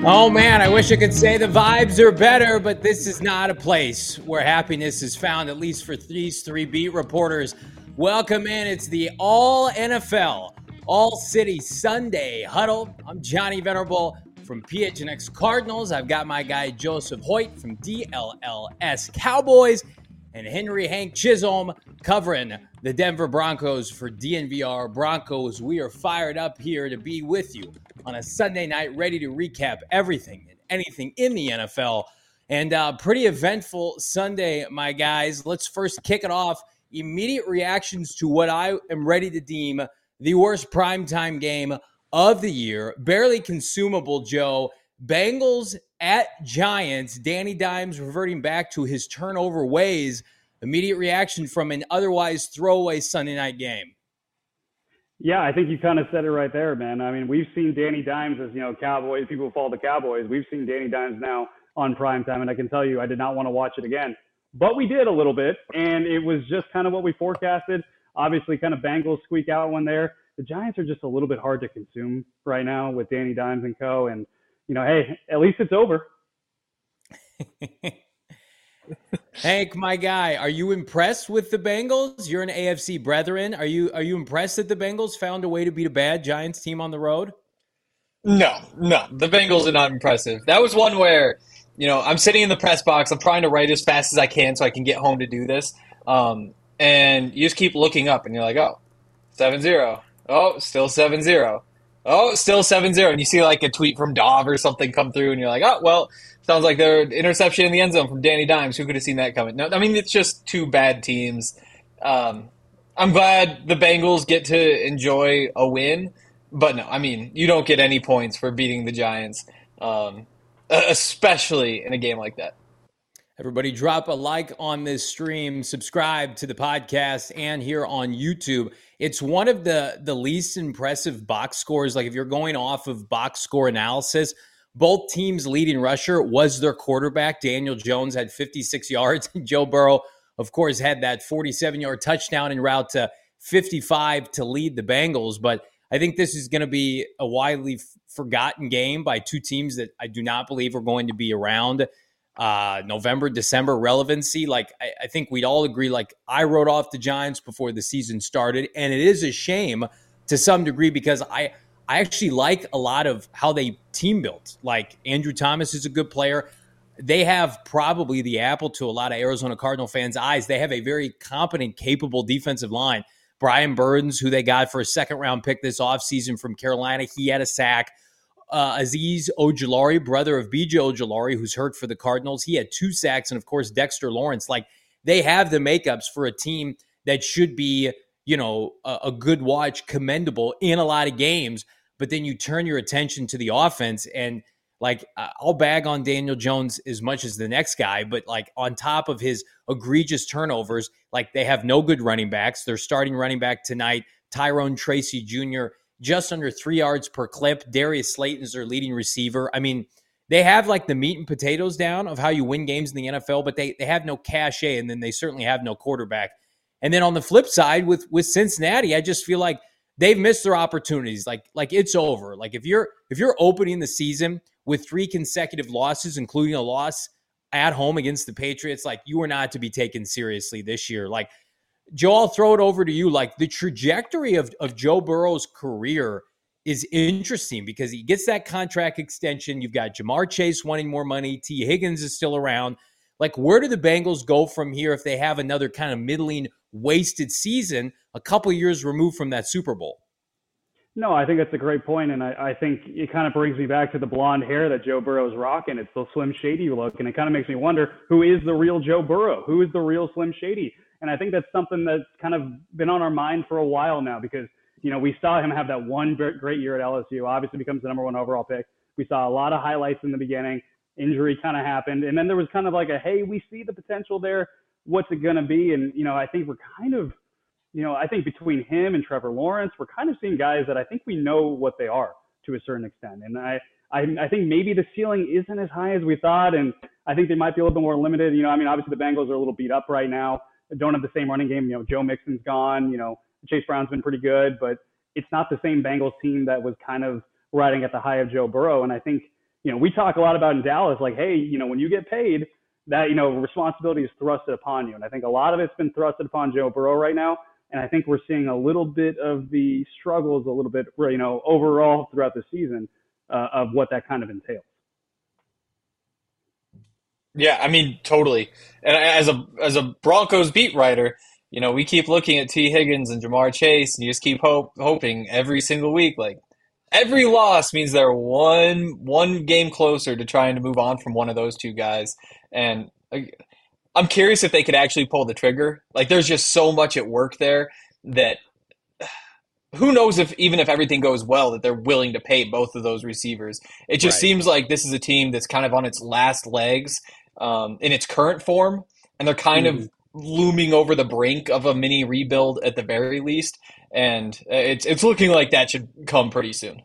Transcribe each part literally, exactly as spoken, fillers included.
Oh man, I wish I could say the vibes are better, but this is not a place where happiness is found, at least for these three beat reporters. Welcome in. It's the All N F L, All City Sunday Huddle. I'm Johnny Venerable from P H N X Cardinals. I've got my guy Joseph Hoyt from D L L S Cowboys and Henry Hank Chisholm covering the Denver Broncos for D N V R Broncos. We are fired up here to be with you on a Sunday night, ready to recap everything and anything in the N F L. And uh, pretty eventful Sunday, my guys. Let's first kick it off. Immediate reactions to what I am ready to deem the worst primetime game of the year. Barely consumable, Joe. Bengals at Giants. Danny Dimes reverting back to his turnover ways. Immediate reaction from an otherwise throwaway Sunday night game. Yeah, I think you kind of said it right there, man. I mean, we've seen Danny Dimes as, you know, Cowboys, people who follow the Cowboys. We've seen Danny Dimes now on primetime, and I can tell you I did not want to watch it again. But we did a little bit, and it was just kind of what we forecasted. Obviously, kind of Bengals squeak out one there. The Giants are just a little bit hard to consume right now with Danny Dimes and co. And, you know, hey, at least it's over. Hank, my guy, are you impressed with the Bengals? You're an A F C brethren. Are you are you impressed that the Bengals found a way to beat a bad Giants team on the road? No, no. The Bengals are not impressive. That was one where, you know, I'm sitting in the press box. I'm trying to write as fast as I can so I can get home to do this. Um, and you just keep looking up, and you're like, oh, seven zero. Oh, still seven zero. Oh, still seven zero. And you see like a tweet from Dov or something come through, and you're like, oh, well, sounds like their interception in the end zone from Danny Dimes. Who could have seen that coming? No, I mean, it's just two bad teams. Um, I'm glad the Bengals get to enjoy a win, but no, I mean, you don't get any points for beating the Giants, um, especially in a game like that. Everybody drop a like on this stream, subscribe to the podcast and here on YouTube. It's one of the, the least impressive box scores. Like if you're going off of box score analysis, both teams' leading rusher was their quarterback. Daniel Jones had fifty-six yards. Joe Burrow, of course, had that forty-seven-yard touchdown en route to fifty-five to lead the Bengals. But I think this is going to be a widely f- forgotten game by two teams that I do not believe are going to be around uh, November, December relevancy. Like, I, I think we'd all agree, like, I wrote off the Giants before the season started. And it is a shame to some degree because I – I actually like a lot of how they team built. Like Andrew Thomas is a good player. They have probably the apple to a lot of Arizona Cardinal fans' eyes. They have a very competent, capable defensive line. Brian Burns, who they got for a second-round pick this offseason from Carolina, he had a sack. Uh, Azeez Ojulari, brother of B J Ojulari, who's hurt for the Cardinals, he had two sacks. And, of course, Dexter Lawrence. Like, they have the makeups for a team that should be, you know, a, a good watch, commendable in a lot of games. But then you turn your attention to the offense and, like, I'll bag on Daniel Jones as much as the next guy, but, like, on top of his egregious turnovers, like, they have no good running backs. They're starting running back tonight, Tyrone Tracy Junior, just under three yards per clip. Darius Slayton's their leading receiver. I mean, they have, like, the meat and potatoes down of how you win games in the N F L, but they, they have no cachet, and then they certainly have no quarterback. And then on the flip side with, with Cincinnati, I just feel like they've missed their opportunities. Like, like it's over. Like if you're if you're opening the season with three consecutive losses, including a loss at home against the Patriots, like you are not to be taken seriously this year. Like, Joe, I'll throw it over to you. Like the trajectory of, of Joe Burrow's career is interesting because he gets that contract extension. You've got Jamar Chase wanting more money. T. Higgins is still around. Like, where do the Bengals go from here if they have another kind of middling, wasted season a couple years removed from that Super Bowl? No, I think that's a great point, and I, I think it kind of brings me back to the blonde hair that Joe Burrow's rocking. It's the Slim Shady look, and it kind of makes me wonder, who is the real Joe Burrow? Who is the real Slim Shady? And I think that's something that's kind of been on our mind for a while now because, you know, we saw him have that one great year at L S U, obviously becomes the number one overall pick. We saw a lot of highlights in the beginning. Injury kind of happened. And then there was kind of like a, hey, we see the potential there. What's it going to be? And, you know, I think we're kind of, you know, I think between him and Trevor Lawrence, we're kind of seeing guys that I think we know what they are to a certain extent. And I, I, I think maybe the ceiling isn't as high as we thought. And I think they might be a little bit more limited. You know, I mean, obviously the Bengals are a little beat up right now. Don't have the same running game. You know, Joe Mixon's gone. You know, Chase Brown's been pretty good, but it's not the same Bengals team that was kind of riding at the high of Joe Burrow. And I think, you know, we talk a lot about in Dallas, like, hey, you know, when you get paid, that, you know, responsibility is thrusted upon you. And I think a lot of it's been thrusted upon Joe Burrow right now. And I think we're seeing a little bit of the struggles, a little bit, you know, overall throughout the season uh, of what that kind of entails. Yeah, I mean, totally. And as a as a Broncos beat writer, you know, we keep looking at T. Higgins and Jamar Chase, and you just keep hope hoping every single week, like every loss means they're one one game closer to trying to move on from one of those two guys. And like, I'm curious if they could actually pull the trigger. Like, there's just so much at work there that who knows if even if everything goes well that they're willing to pay both of those receivers. It just Right. seems like this is a team that's kind of on its last legs um, in its current form, and they're kind Mm-hmm. of looming over the brink of a mini rebuild at the very least. And it's it's looking like that should come pretty soon.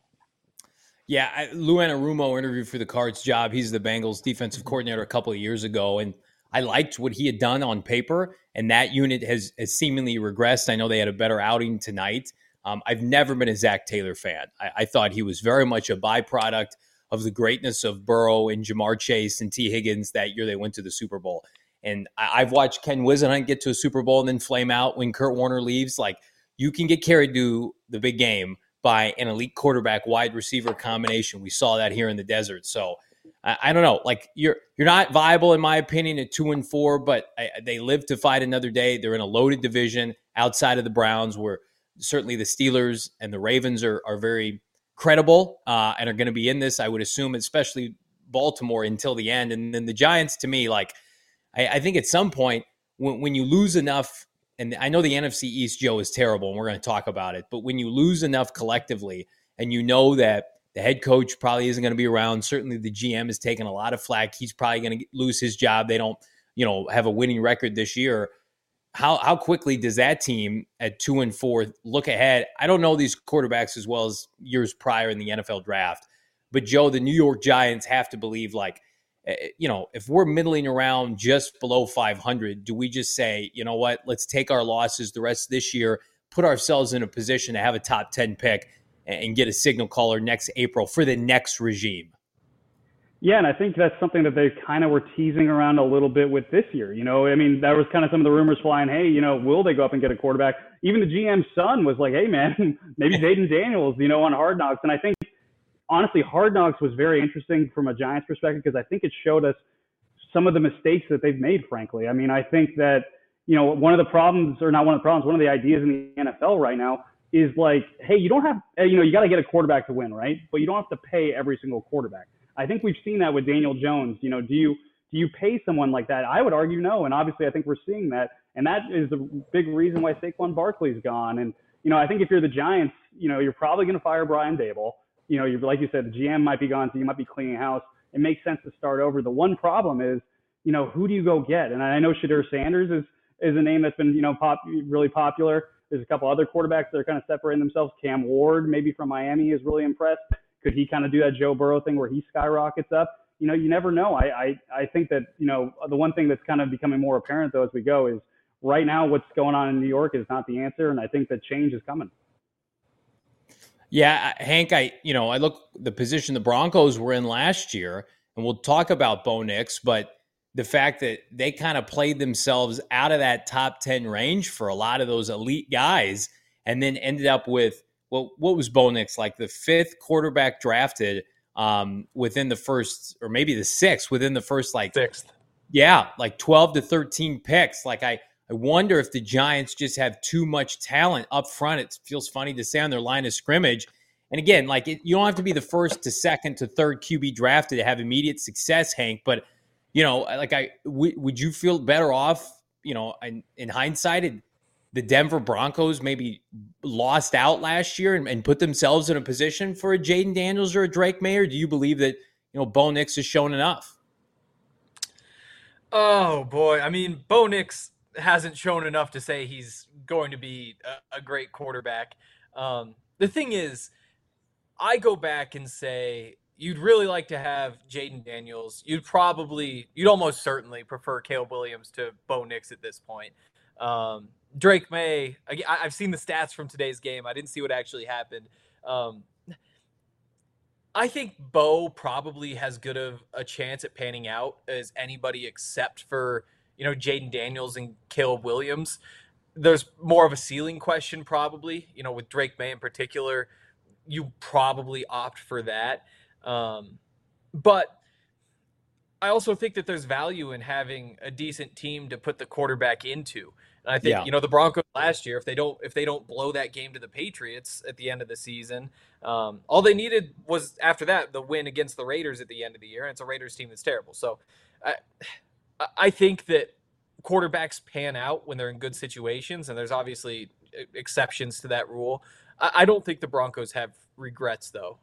Yeah, I, Lou Anarumo interviewed for the Cards job. He's the Bengals defensive coordinator a couple of years ago, and I liked what he had done on paper, and that unit has, has seemingly regressed. I know they had a better outing tonight. Um, I've never been a Zach Taylor fan. I, I thought he was very much a byproduct of the greatness of Burrow and Jamar Chase and T. Higgins that year they went to the Super Bowl. And I, I've watched Ken Whisenhunt get to a Super Bowl and then flame out when Kurt Warner leaves. Like, you can get carried to the big game by an elite quarterback wide receiver combination. We saw that here in the desert. So I, I don't know. Like, you're you're not viable in my opinion at two and four, but I, they live to fight another day. They're in a loaded division outside of the Browns, where certainly the Steelers and the Ravens are are very credible uh, and are going to be in this. I would assume, especially Baltimore until the end, and then the Giants. To me, like I, I think at some point when when you lose enough. And I know the N F C East, Joe, is terrible, and we're going to talk about it. But when you lose enough collectively, and you know that the head coach probably isn't going to be around, certainly the G M is taking a lot of flack. He's probably going to lose his job. They don't, you know, have a winning record this year. How how quickly does that team at two and four look ahead? I don't know these quarterbacks as well as years prior in the N F L draft, but Joe, the New York Giants have to believe like. You know, if we're middling around just below five hundred, do we just say, you know what, let's take our losses the rest of this year, put ourselves in a position to have a top ten pick and get a signal caller next April for the next regime? Yeah, and I think that's something that they kind of were teasing around a little bit with this year. You know, I mean, that was kind of some of the rumors flying, hey, you know, will they go up and get a quarterback? Even the G M's son was like, hey, man, maybe Jayden Daniels, you know, on Hard Knocks. And I think, honestly, Hard Knocks was very interesting from a Giants perspective because I think it showed us some of the mistakes that they've made, frankly. I mean, I think that, you know, one of the problems, or not one of the problems, one of the ideas in the N F L right now is like, hey, you don't have, you know, you got to get a quarterback to win, right? But you don't have to pay every single quarterback. I think we've seen that with Daniel Jones. You know, do you do you pay someone like that? I would argue no, and obviously I think we're seeing that, and that is the big reason why Saquon Barkley's gone. And you know, I think if you're the Giants, you know, you're probably going to fire Brian Daboll. You know, you're, like you said, the G M might be gone, so you might be cleaning house. It makes sense to start over. The one problem is, you know, who do you go get? And I know Shadur Sanders is is a name that's been, you know, pop, really popular. There's a couple other quarterbacks that are kind of separating themselves. Cam Ward, maybe from Miami, is really impressed. Could he kind of do that Joe Burrow thing where he skyrockets up? You know, you never know. I, I, I think that, you know, the one thing that's kind of becoming more apparent, though, as we go is right now what's going on in New York is not the answer, and I think that change is coming. Yeah, Hank, I you know, I look the position the Broncos were in last year, and we'll talk about Bo Nix, but the fact that they kind of played themselves out of that top ten range for a lot of those elite guys, and then ended up with, well, what was Bo Nix, like the fifth quarterback drafted um, within the first, or maybe the sixth, within the first, like, Sixth. Yeah, like twelve to thirteen picks. Like, I, I wonder if the Giants just have too much talent up front. It feels funny to say on their line of scrimmage. And again, like it, you don't have to be the first to second to third Q B drafted to have immediate success, Hank. But, you know, like I, w- would you feel better off, you know, in, in hindsight, it, the Denver Broncos maybe lost out last year and, and put themselves in a position for a Jayden Daniels or a Drake May? Or do you believe that, you know, Bo Nix has shown enough? Oh, boy. I mean, Bo Nix hasn't shown enough to say he's going to be a, a great quarterback. Um, the thing is, I go back and say you'd really like to have Jayden Daniels. You'd probably, you'd almost certainly prefer Caleb Williams to Bo Nix at this point. Um, Drake May, I, I've seen the stats from today's game. I didn't see what actually happened. Um, I think Bo probably has good of a chance at panning out as anybody except for, you know, Jaden Daniels and Caleb Williams. There's more of a ceiling question probably, you know, with Drake May in particular. You probably opt for that. Um, but I also think that there's value in having a decent team to put the quarterback into. And I think, Yeah. you know, the Broncos last year, if they don't if they don't blow that game to the Patriots at the end of the season, um, all they needed was after that the win against the Raiders at the end of the year, and it's a Raiders team that's terrible. So I I think that quarterbacks pan out when they're in good situations, and there's obviously exceptions to that rule. I, I don't think the Broncos have regrets though.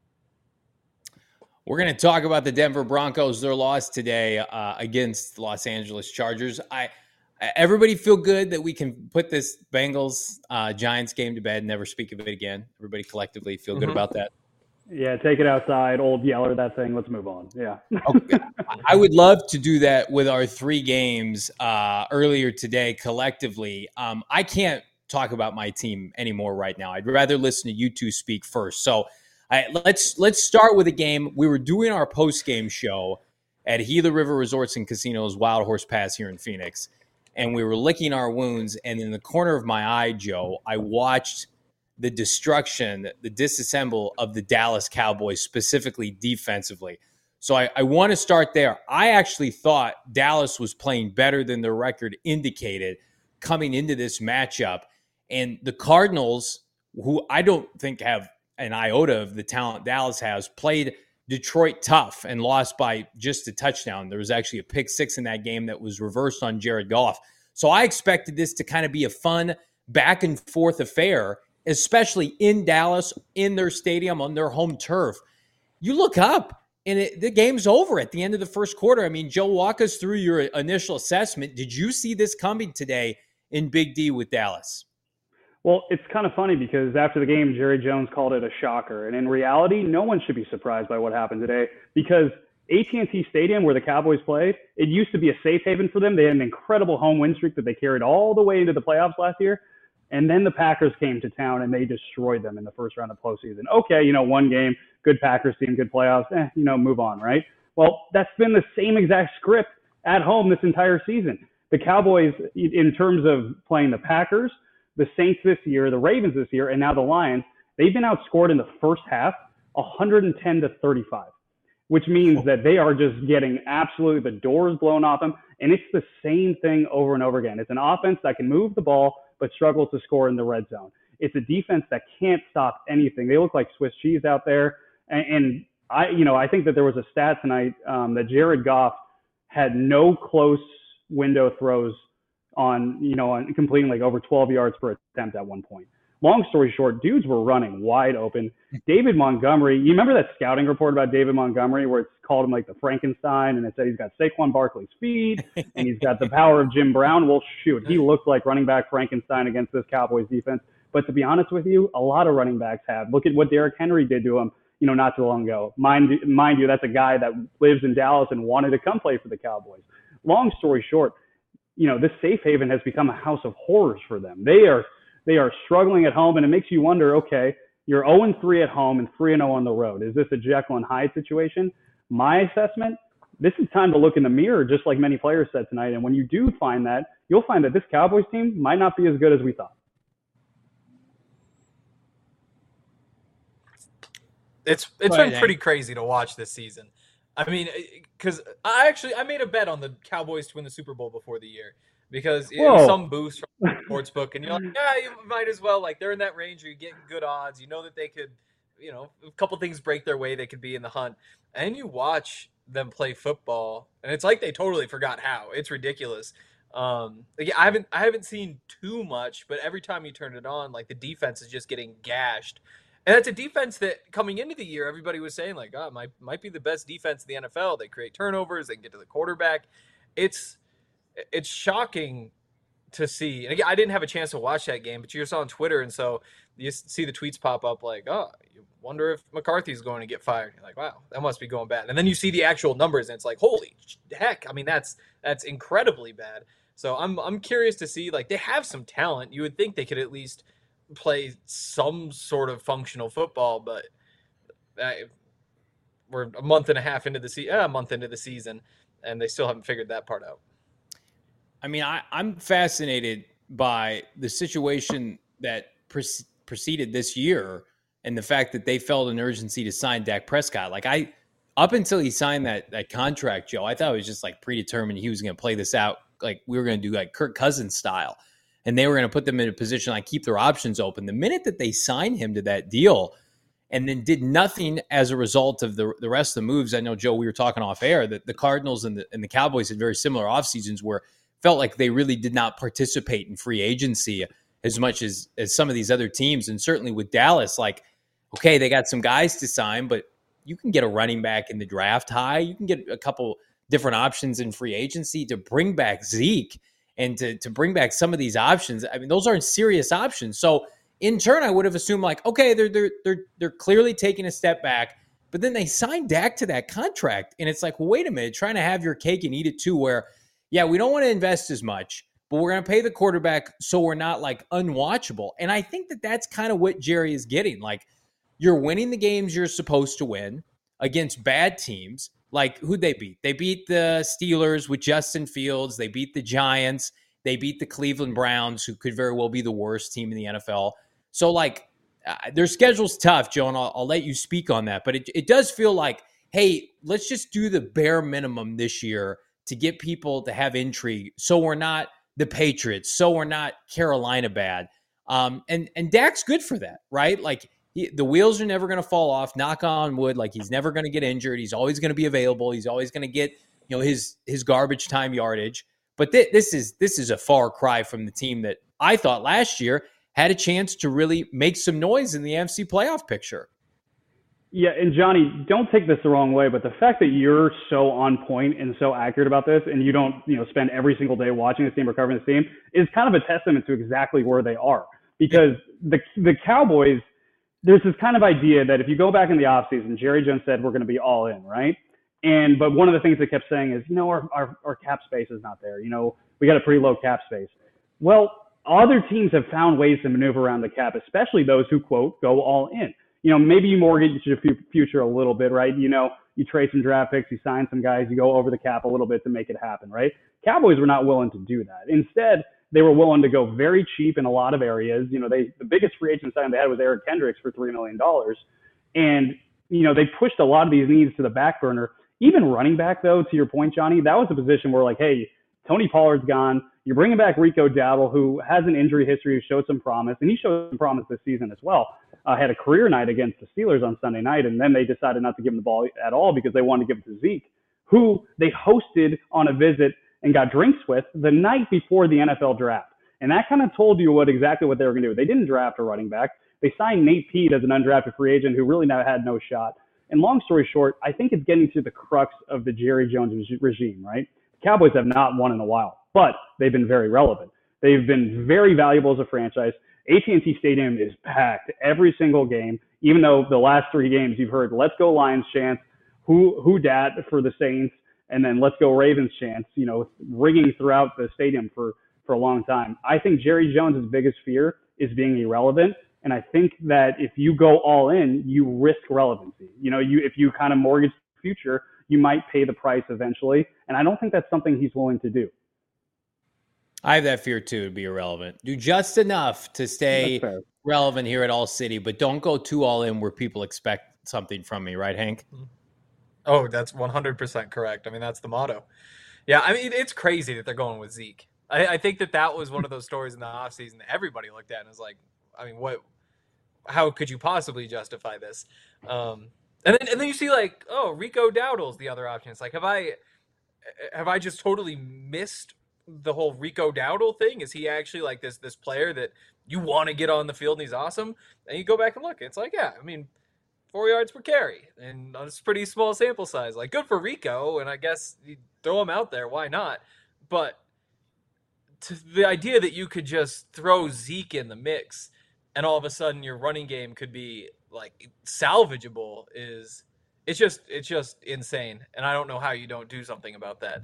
We're going to talk about the Denver Broncos, their loss today uh, against the Los Angeles Chargers. I everybody feel good that we can put this Bengals uh, Giants game to bed, never speak of it again. Everybody collectively feel good mm-hmm. about that. Yeah, take it outside, old Yeller, that thing. Let's move on. Yeah. Okay. I would love to do that with our three games uh, earlier today collectively. Um, I can't talk about my team anymore right now. I'd rather listen to you two speak first. So I, let's let's start with a game. We were doing our post-game show at Gila River Resorts and Casinos Wild Horse Pass here in Phoenix, and we were licking our wounds. And in the corner of my eye, Joe, I watched the destruction, the disassemble of the Dallas Cowboys, specifically defensively. So I, I want to start there. I actually thought Dallas was playing better than their record indicated coming into this matchup. And the Cardinals, who I don't think have an iota of the talent Dallas has, played Detroit tough and lost by just a touchdown. There was actually a pick six in that game that was reversed on Jared Goff. So I expected this to kind of be a fun back and forth affair, especially in Dallas, in their stadium, on their home turf. You look up and it, the game's over at the end of the first quarter. I mean, Joe, walk us through your initial assessment. Did you see this coming today in Big D with Dallas? Well, it's kind of funny because after the game, Jerry Jones called it a shocker. And in reality, no one should be surprised by what happened today because A T and T Stadium, where the Cowboys played, it used to be a safe haven for them. They had an incredible home win streak that they carried all the way into the playoffs last year. And then the Packers came to town and they destroyed them in the first round of postseason. Okay, you know, one game, good Packers team, good playoffs, eh, you know, move on, right? Well, that's been the same exact script at home this entire season. The Cowboys, in terms of playing the Packers, the Saints this year, the Ravens this year, and now the Lions, they've been outscored in the first half one hundred ten to thirty-five, which means that they are just getting absolutely the doors blown off them. And it's the same thing over and over again. It's an offense that can move the ball, but struggles to score in the red zone. It's a defense that can't stop anything. They look like Swiss cheese out there. And, and I, you know, I think that there was a stat tonight um, that Jared Goff had no close window throws on, you know, on completing like over twelve yards per attempt at one point. Long story short, dudes were running wide open. David Montgomery, you remember that scouting report about David Montgomery where it's called him like the Frankenstein and it said he's got Saquon Barkley's speed and he's got the power of Jim Brown? Well, shoot, he looked like running back Frankenstein against this Cowboys defense. But to be honest with you, a lot of running backs have. Look at what Derrick Henry did to him, you know, not too long ago. Mind, mind you, that's a guy that lives in Dallas and wanted to come play for the Cowboys. Long story short, you know, this safe haven has become a house of horrors for them. They are they are struggling at home, and it makes you wonder, okay, you're oh and three at home and three and oh on the road. Is this a Jekyll and Hyde situation? My assessment, this is time to look in the mirror, just like many players said tonight. And when you do find that, you'll find that this Cowboys team might not be as good as we thought. It's It's right, been pretty crazy to watch this season. I mean, because I actually I made a bet on the Cowboys to win the Super Bowl before the year because it was some boost from the sportsbook, and you're like, yeah, you might as well. Like, they're in that range, you're getting good odds. You know that they could, you know, a couple things break their way, they could be in the hunt. And you watch them play football, and it's like they totally forgot how. It's ridiculous. Um, like, I haven't I haven't seen too much, but every time you turn it on, like the defense is just getting gashed. And that's a defense that coming into the year, everybody was saying like, oh, might might be the best defense in the N F L. They create turnovers, they can get to the quarterback. It's it's shocking to see. And again, I didn't have a chance to watch that game, but you saw on Twitter, and so you see the tweets pop up like, oh, you wonder if McCarthy's going to get fired. You're like, wow, that must be going bad. And then you see the actual numbers, and it's like, holy heck! I mean, that's that's incredibly bad. So I'm I'm curious to see, like, they have some talent. You would think they could at least play some sort of functional football, but I, we're a month and a half into the se- uh, a month into the season, and they still haven't figured that part out. I mean, I, I'm fascinated by the situation that pre- preceded this year and the fact that they felt an urgency to sign Dak Prescott. Like I, up until he signed that that contract, Joe, I thought it was just like predetermined he was going to play this out. Like we were going to do like Kirk Cousins style, and they were going to put them in a position like keep their options open. The minute that they signed him to that deal, and then did nothing as a result of the the rest of the moves. I know, Joe, we were talking off air that the Cardinals and the and the Cowboys had very similar off seasons where felt like they really did not participate in free agency as much as, as some of these other teams. And certainly with Dallas, like, okay, they got some guys to sign, but you can get a running back in the draft high. You can get a couple different options in free agency to bring back Zeke and to, to bring back some of these options. I mean, those aren't serious options. So in turn, I would have assumed like, okay, they're, they're, they're, they're clearly taking a step back, but then they signed Dak to that contract. And it's like, well, wait a minute, trying to have your cake and eat it too, where, yeah, we don't want to invest as much, but we're going to pay the quarterback so we're not like unwatchable. And I think that that's kind of what Jerry is getting. Like you're winning the games you're supposed to win against bad teams. Like who'd they beat? They beat the Steelers with Justin Fields. They beat the Giants. They beat the Cleveland Browns, who could very well be the worst team in the N F L. So like uh, their schedule's tough, Joe, and I'll, I'll let you speak on that. But it, it does feel like, hey, let's just do the bare minimum this year to get people to have intrigue, so we're not the Patriots, so we're not Carolina bad. Um, and and Dak's good for that, right? Like he, the wheels are never going to fall off. Knock on wood. Like he's never going to get injured. He's always going to be available. He's always going to get you know his his garbage time yardage. But th- this is this is a far cry from the team that I thought last year had a chance to really make some noise in the N F C playoff picture. Yeah, and Johnny, don't take this the wrong way, but the fact that you're so on point and so accurate about this, and you don't, you know, spend every single day watching this team or covering this team, is kind of a testament to exactly where they are. Because the the Cowboys, there's this kind of idea that if you go back in the offseason, Jerry Jones said we're going to be all in, right? And but one of the things they kept saying is, you know, our, our our cap space is not there. You know, we got a pretty low cap space. Well, other teams have found ways to maneuver around the cap, especially those who quote go all in. You know, maybe you mortgage your future a little bit, right? You know, you trade some draft picks, you sign some guys, you go over the cap a little bit to make it happen, right? Cowboys were not willing to do that. Instead, they were willing to go very cheap in a lot of areas. You know, they the biggest free agent signing they had was Eric Kendricks for three million dollars. And, you know, they pushed a lot of these needs to the back burner. Even running back, though, to your point, Johnny, that was a position where, like, hey, Tony Pollard's gone. You're bringing back Rico Dowdle, who has an injury history, who showed some promise, and he showed some promise this season as well. Uh, had a career night against the Steelers on Sunday night, and then they decided not to give him the ball at all because they wanted to give it to Zeke, who they hosted on a visit and got drinks with the night before the N F L draft. And that kind of told you what exactly what they were going to do. They didn't draft a running back. They signed Nate Peat as an undrafted free agent who really now had no shot. And long story short, I think it's getting to the crux of the Jerry Jones regime, right? The Cowboys have not won in a while, but they've been very relevant. They've been very valuable as a franchise. A T and T Stadium is packed every single game, even though the last three games you've heard, let's go Lions chants, who, who dat for the Saints, and then let's go Ravens chants, you know, ringing throughout the stadium for, for a long time. I think Jerry Jones' biggest fear is being irrelevant. And I think that if you go all in, you risk relevancy. You know, you if you kind of mortgage the future, you might pay the price eventually. And I don't think that's something he's willing to do. I have that fear too, to be irrelevant. Do just enough to stay relevant here at All City, but don't go too all in where people expect something from me, right, Hank? Oh, that's one hundred percent correct. I mean, that's the motto. Yeah, I mean, it's crazy that they're going with Zeke. I, I think that that was one of those stories in the offseason that everybody looked at and was like, I mean, what? How could you possibly justify this? Um, and then and then you see like, oh, Rico Dowdle's the other option. It's like, have I have I just totally missed the whole Rico Dowdle thing? Is he actually like this this player that you want to get on the field and he's awesome? And you go back and look, it's like, yeah, I mean, four yards per carry, and it's a pretty small sample size. Like, good for Rico, and I guess you throw him out there, why not? But to the idea that you could just throw Zeke in the mix and all of a sudden your running game could be like salvageable is it's just it's just insane. And I don't know how you don't do something about that.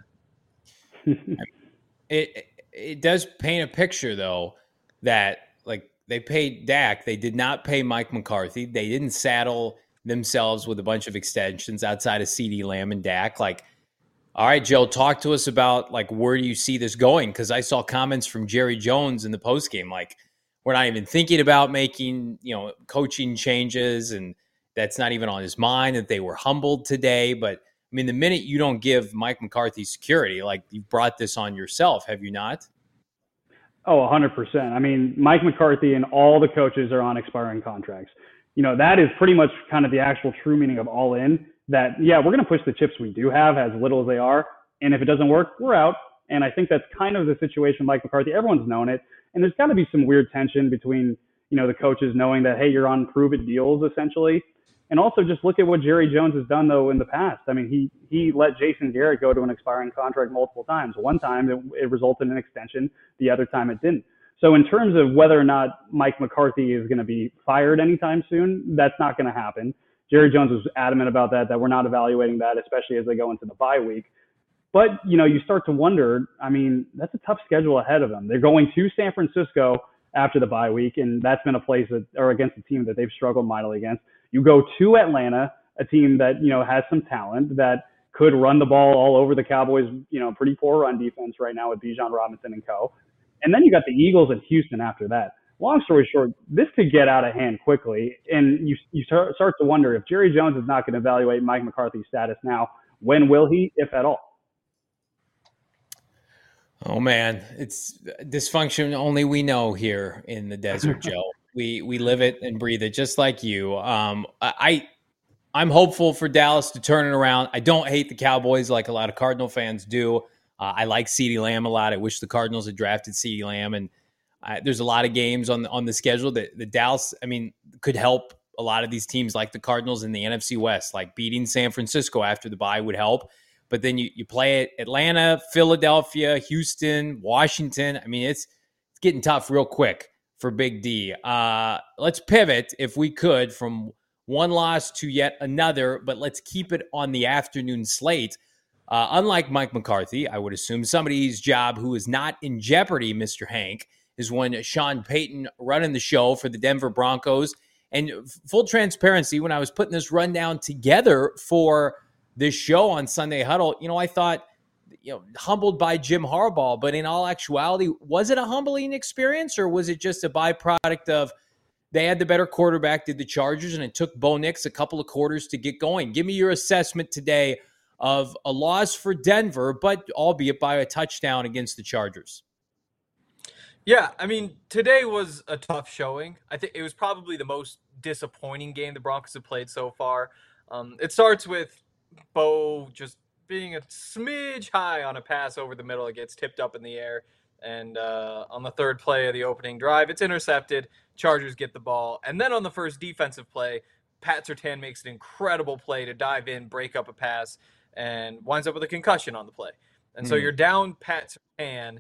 It it does paint a picture though that like they paid Dak, they did not pay Mike McCarthy, they didn't saddle themselves with a bunch of extensions outside of CeeDee Lamb and Dak. Like, all right, Joe, talk to us about like where do you see this going? Because I saw comments from Jerry Jones in the postgame, like we're not even thinking about making, you know, coaching changes, and that's not even on his mind. That they were humbled today. But I mean, the minute you don't give Mike McCarthy security, like you've brought this on yourself, have you not? Oh, one hundred percent. I mean, Mike McCarthy and all the coaches are on expiring contracts. You know, that is pretty much kind of the actual true meaning of all in. That, yeah, we're going to push the chips we do have as little as they are. And if it doesn't work, we're out. And I think that's kind of the situation with Mike McCarthy. Everyone's known it. And there's got to be some weird tension between, you know, the coaches knowing that, hey, you're on prove it deals essentially. And also just look at what Jerry Jones has done, though, in the past. I mean, he he let Jason Garrett go to an expiring contract multiple times. One time it, it resulted in an extension. The other time it didn't. So in terms of whether or not Mike McCarthy is going to be fired anytime soon, that's not going to happen. Jerry Jones was adamant about that, that we're not evaluating that, especially as they go into the bye week. But, you know, you start to wonder, I mean, that's a tough schedule ahead of them. They're going to San Francisco after the bye week, and that's been a place that, or against a team that they've struggled mightily against. You go to Atlanta, a team that, you know, has some talent, that could run the ball all over the Cowboys, you know, pretty poor run defense right now with Bijan Robinson and co. And then you got the Eagles and Houston after that. Long story short, this could get out of hand quickly, and you you start to wonder if Jerry Jones is not going to evaluate Mike McCarthy's status now, when will he, if at all? Oh man, it's dysfunction only we know here in the desert, Joe. We we live it and breathe it just like you. Um, I I'm hopeful for Dallas to turn it around. I don't hate the Cowboys like a lot of Cardinal fans do. Uh, I like CeeDee Lamb a lot. I wish the Cardinals had drafted CeeDee Lamb, and Uh, there's a lot of games on the, on the schedule that the Dallas, I mean, could help a lot of these teams like the Cardinals in the N F C West, like beating San Francisco after the bye would help. But then you, you play it Atlanta, Philadelphia, Houston, Washington. I mean, it's, it's getting tough real quick for Big D. Uh, let's pivot, if we could, from one loss to yet another, but let's keep it on the afternoon slate. Uh, unlike Mike McCarthy, I would assume somebody's job who is not in jeopardy, Mister Hank, is when Sean Payton running the show for the Denver Broncos. And full transparency, when I was putting this rundown together for this show on Sunday Huddle, you know, I thought, you know, humbled by Jim Harbaugh, but in all actuality, was it a humbling experience, or was it just a byproduct of they had the better quarterback, did the Chargers, and it took Bo Nix a couple of quarters to get going? Give me your assessment today of a loss for Denver, but albeit by a touchdown against the Chargers. Yeah, I mean, today was a tough showing. I think it was probably the most disappointing game the Broncos have played so far. Um, it starts with Bo just being a smidge high on a pass over the middle. It gets tipped up in the air. And uh, on the third play of the opening drive, it's intercepted. Chargers get the ball. And then on the first defensive play, Pat Surtain makes an incredible play to dive in, break up a pass, and winds up with a concussion on the play. And mm. so you're down Pat Surtain,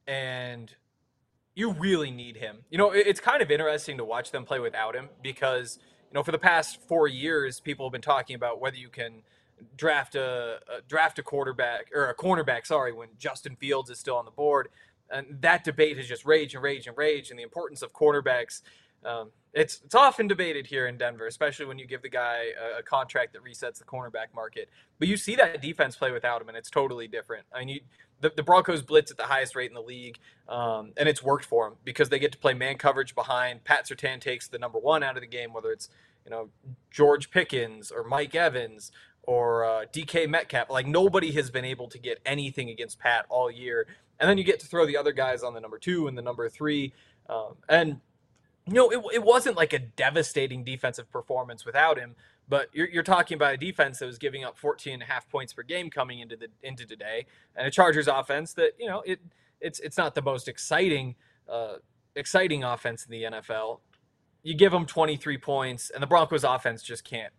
and you really need him. You know, it's kind of interesting to watch them play without him because, you know, for the past four years, people have been talking about whether you can draft a, a draft a quarterback or a cornerback, sorry, when Justin Fields is still on the board. And that debate has just raged and raged and raged, and the importance of quarterbacks. Um, it's it's often debated here in Denver, especially when you give the guy a, a contract that resets the cornerback market. But you see that defense play without him, and it's totally different. I mean, you, the, the Broncos blitz at the highest rate in the league, um, and it's worked for them because they get to play man coverage behind. Pat Surtain takes the number one out of the game, whether it's you know George Pickens or Mike Evans or uh, D K Metcalf. Like, nobody has been able to get anything against Pat all year. And then you get to throw the other guys on the number two and the number three. Um, and, you know, it, it wasn't like a devastating defensive performance without him, but you're, you're talking about a defense that was giving up fourteen and a half points per game coming into the into today, and a Chargers offense that, you know, it it's it's not the most exciting uh, exciting offense in the N F L. You give them twenty-three points, and the Broncos offense just can't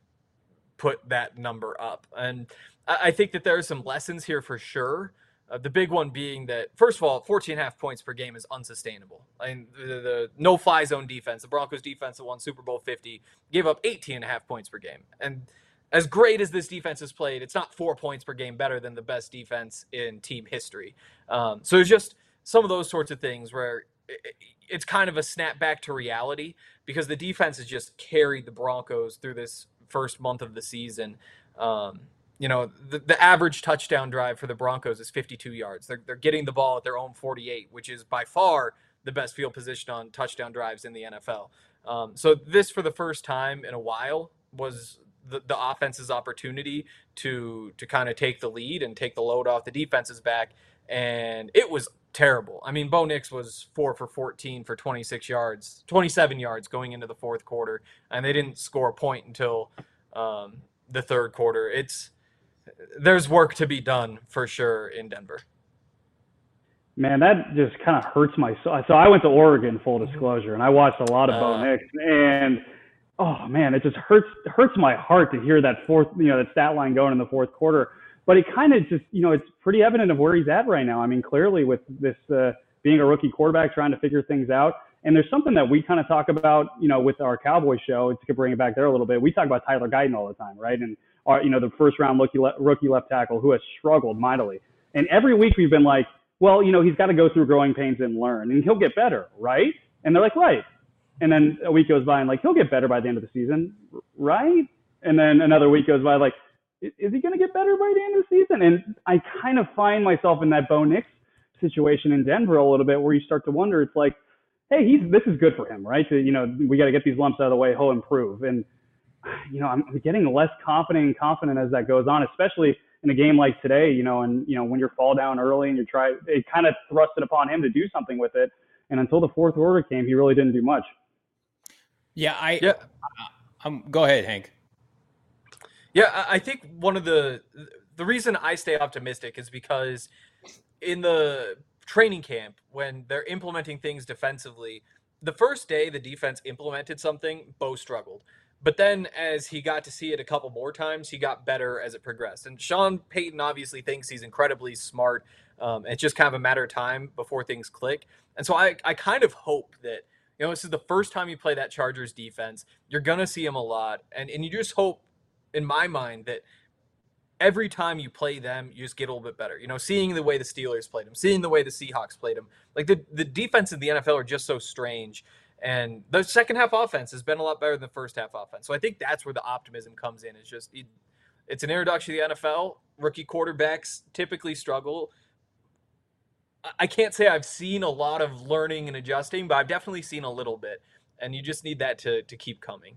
put that number up. And I, I think that there are some lessons here for sure. Uh, the big one being that, first of all, fourteen and a half points per game is unsustainable. I mean, the, the no-fly zone defense, the Broncos defense that won Super Bowl fifty, gave up eighteen and a half points per game. And as great as this defense has played, it's not four points per game better than the best defense in team history. Um, so it's just some of those sorts of things where it, it's kind of a snap back to reality because the defense has just carried the Broncos through this first month of the season. Um, you know, the, the average touchdown drive for the Broncos is fifty-two yards. They're, they're getting the ball at their own forty-eight, which is by far the best field position on touchdown drives in the N F L. Um, so this, for the first time in a while, was the, the offense's opportunity to to kind of take the lead and take the load off the defense's back. And it was terrible. I mean, Bo Nix was four for fourteen for twenty-six yards, twenty-seven yards going into the fourth quarter, and they didn't score a point until um, the third quarter. It's there's work to be done for sure in Denver. Man, that just kind of hurts my soul. So I went to Oregon, full disclosure, and I watched a lot of uh, Bo Nix, and oh man, it just hurts hurts my heart to hear that fourth, you know, that stat line going in the fourth quarter. But it kind of just, you know, it's pretty evident of where he's at right now. I mean, clearly with this uh, being a rookie quarterback, trying to figure things out. And there's something that we kind of talk about, you know, with our Cowboy show, to bring it back there a little bit. We talk about Tyler Guyton all the time, right? And our, you know, the first round rookie, rookie left tackle who has struggled mightily. And every week we've been like, well, you know, he's got to go through growing pains and learn, and he'll get better, right? And they're like, right. And then a week goes by and like, he'll get better by the end of the season, right? And then another week goes by like, is he going to get better by the end of the season? And I kind of find myself in that Bo Nix situation in Denver a little bit, where you start to wonder, it's like, hey, he's this is good for him, right? To, you know, we got to get these lumps out of the way. He'll improve. And, you know, I'm getting less confident and confident as that goes on, especially in a game like today, you know, and, you know, when you're fall down early and you're trying, it kind of thrusted upon him to do something with it. And until the fourth quarter came, he really didn't do much. Yeah. I, yeah. Um, go ahead, Hank. Yeah, I think one of the the reason I stay optimistic is because in the training camp, when they're implementing things defensively, the first day the defense implemented something, Bo struggled. But then as he got to see it a couple more times, he got better as it progressed. And Sean Payton obviously thinks he's incredibly smart. Um, it's just kind of a matter of time before things click. And so I, I kind of hope that, you know, this is the first time you play that Chargers defense. You're going to see him a lot. And, and you just hope, in my mind, that every time you play them, you just get a little bit better. You know, seeing the way the Steelers played them, seeing the way the Seahawks played them. Like, the, the defense in the N F L are just so strange. And the second half offense has been a lot better than the first half offense. So I think that's where the optimism comes in. It's just, it, it's an introduction to the N F L. Rookie quarterbacks typically struggle. I can't say I've seen a lot of learning and adjusting, but I've definitely seen a little bit. And you just need that to to keep coming.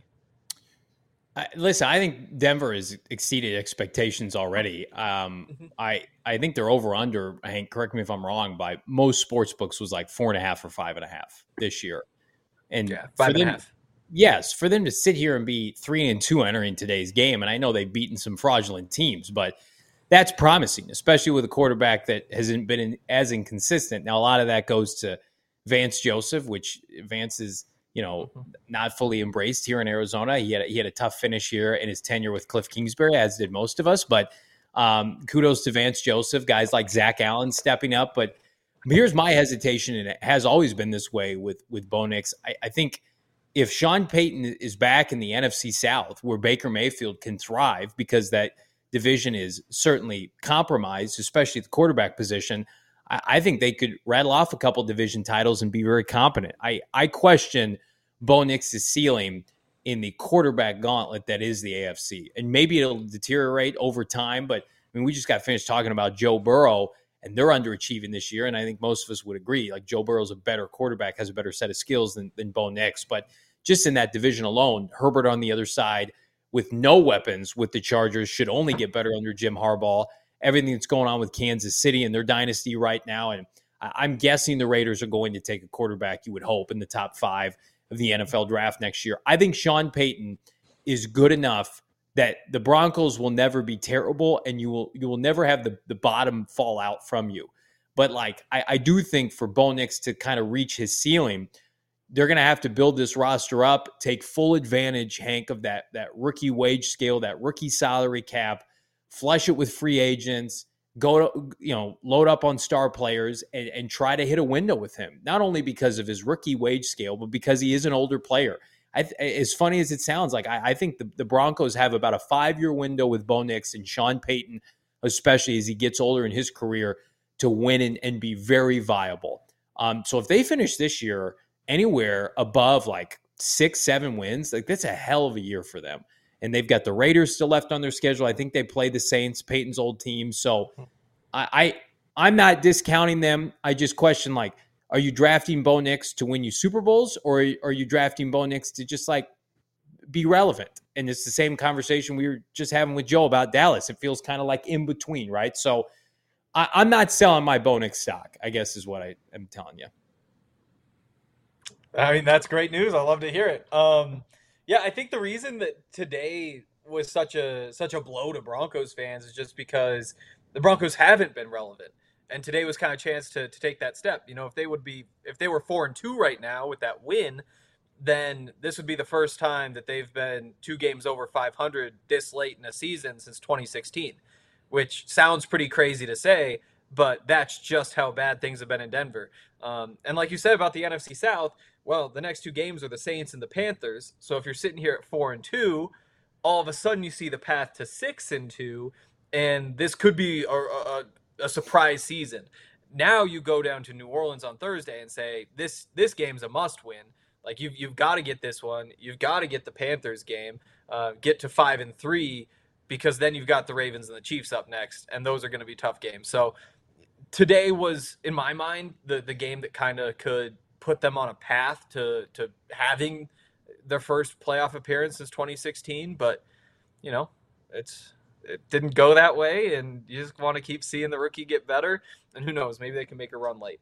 I, listen, I think Denver has exceeded expectations already. Um, mm-hmm. I I think they're over under. Hank, correct me if I'm wrong. By most sports books was like four and a half or five and a half this year, and yeah, five and them, a half. Yes, for them to sit here and be three and two entering today's game, and I know they've beaten some fraudulent teams, but that's promising, especially with a quarterback that hasn't been in, as inconsistent. Now, a lot of that goes to Vance Joseph, which Vance is, you know, not fully embraced here in Arizona. He had a, he had a tough finish here in his tenure with Cliff Kingsbury, as did most of us. But um, kudos to Vance Joseph, guys like Zach Allen stepping up. But here's my hesitation, and it has always been this way with with Bo Nix. I, I think if Sean Payton is back in the N F C South, where Baker Mayfield can thrive, because that division is certainly compromised, especially the quarterback position, I, I think they could rattle off a couple division titles and be very competent. I, I question Bo Nix's ceiling in the quarterback gauntlet that is the A F C. And maybe it'll deteriorate over time, but I mean, we just got finished talking about Joe Burrow, and they're underachieving this year, and I think most of us would agree. Like, Joe Burrow's a better quarterback, has a better set of skills than, than Bo Nix. But just in that division alone, Herbert on the other side with no weapons with the Chargers should only get better under Jim Harbaugh. Everything that's going on with Kansas City and their dynasty right now, and I'm guessing the Raiders are going to take a quarterback, you would hope, in the top five of the N F L draft next year. I think Sean Payton is good enough that the Broncos will never be terrible, and you will you will never have the, the bottom fall out from you. But like I, I do think for Bo Nix to kind of reach his ceiling, they're going to have to build this roster up, take full advantage, Hank, of that that rookie wage scale, that rookie salary cap, flush it with free agents, go to, you know, load up on star players and, and try to hit a window with him. Not only because of his rookie wage scale, but because he is an older player. I, as funny as it sounds, like I, I think the, the Broncos have about a five-year window with Bo Nix and Sean Payton, especially as he gets older in his career, to win and, and be very viable. Um, so if they finish this year anywhere above like six, seven wins, like that's a hell of a year for them. and they've got the Raiders still left on their schedule. I think they play the Saints, Peyton's old team. So I, I I'm not discounting them. I just question, like, are you drafting Bo Nix to win you Super Bowls, or are you drafting Bo Nix to just like be relevant? And it's the same conversation we were just having with Joe about Dallas. It feels kind of like in between, right? So I, I'm not selling my Bo Nix stock, I guess is what I am telling you. I mean, that's great news. I love to hear it. Um, yeah, I think the reason that today was such a such a blow to Broncos fans is just because the Broncos haven't been relevant. And today was kind of a chance to to take that step. You know, if they would be if they were four and two right now with that win, then this would be the first time that they've been two games over five hundred this late in a season since twenty sixteen, which sounds pretty crazy to say, but that's just how bad things have been in Denver. Um, and like you said about the N F C South, well, the next two games are the Saints and the Panthers. So if you're sitting here at four and two, all of a sudden you see the path to six and two, and this could be a, a, a surprise season. Now you go down to New Orleans on Thursday and say this this game's a must win. Like you've you've got to get this one. You've got to get the Panthers game, uh, get to five and three, because then you've got the Ravens and the Chiefs up next, and those are going to be tough games. So today was, in my mind, the the game that kind of could put them on a path to to having their first playoff appearance since twenty sixteen. But you know, it's it didn't go that way, and you just want to keep seeing the rookie get better. And who knows, maybe they can make a run late.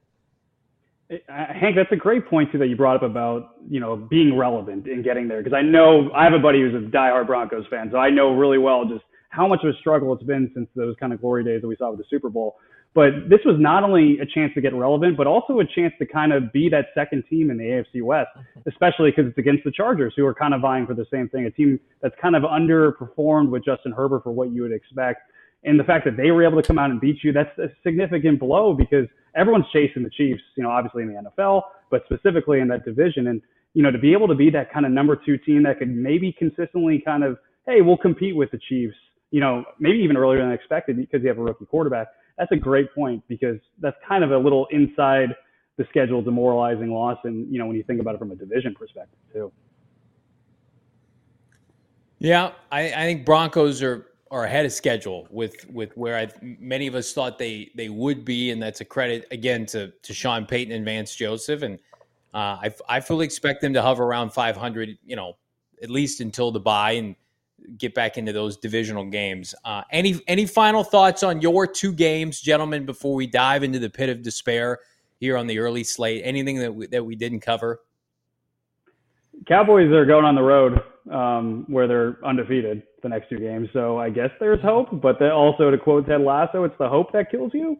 Hank, that's a great point too that you brought up about, you know, being relevant and getting there. Because I know I have a buddy who's a diehard Broncos fan, so I know really well just how much of a struggle it's been since those kind of glory days that we saw with the Super Bowl. But this was not only a chance to get relevant, but also a chance to kind of be that second team in the A F C West, especially because it's against the Chargers, who are kind of vying for the same thing, a team that's kind of underperformed with Justin Herbert for what you would expect. And the fact that they were able to come out and beat you, that's a significant blow because everyone's chasing the Chiefs, you know, obviously in the N F L, but specifically in that division. And, you know, to be able to be that kind of number two team that could maybe consistently kind of, hey, we'll compete with the Chiefs, you know, maybe even earlier than expected because you have a rookie quarterback. That's a great point because that's kind of a little inside the schedule demoralizing loss. And, you know, when you think about it from a division perspective too. Yeah, I, I think Broncos are, are ahead of schedule with with where I, many of us thought they they would be, and that's a credit again to to Sean Payton and Vance Joseph. And uh, I I fully expect them to hover around five hundred, you know, at least until the bye and get back into those divisional games. Uh, any any final thoughts on your two games, gentlemen, before we dive into the pit of despair here on the early slate? Anything that we, that we didn't cover? Cowboys are going on the road um, where they're undefeated the next two games. So I guess there's hope, but then also to quote Ted Lasso, it's the hope that kills you.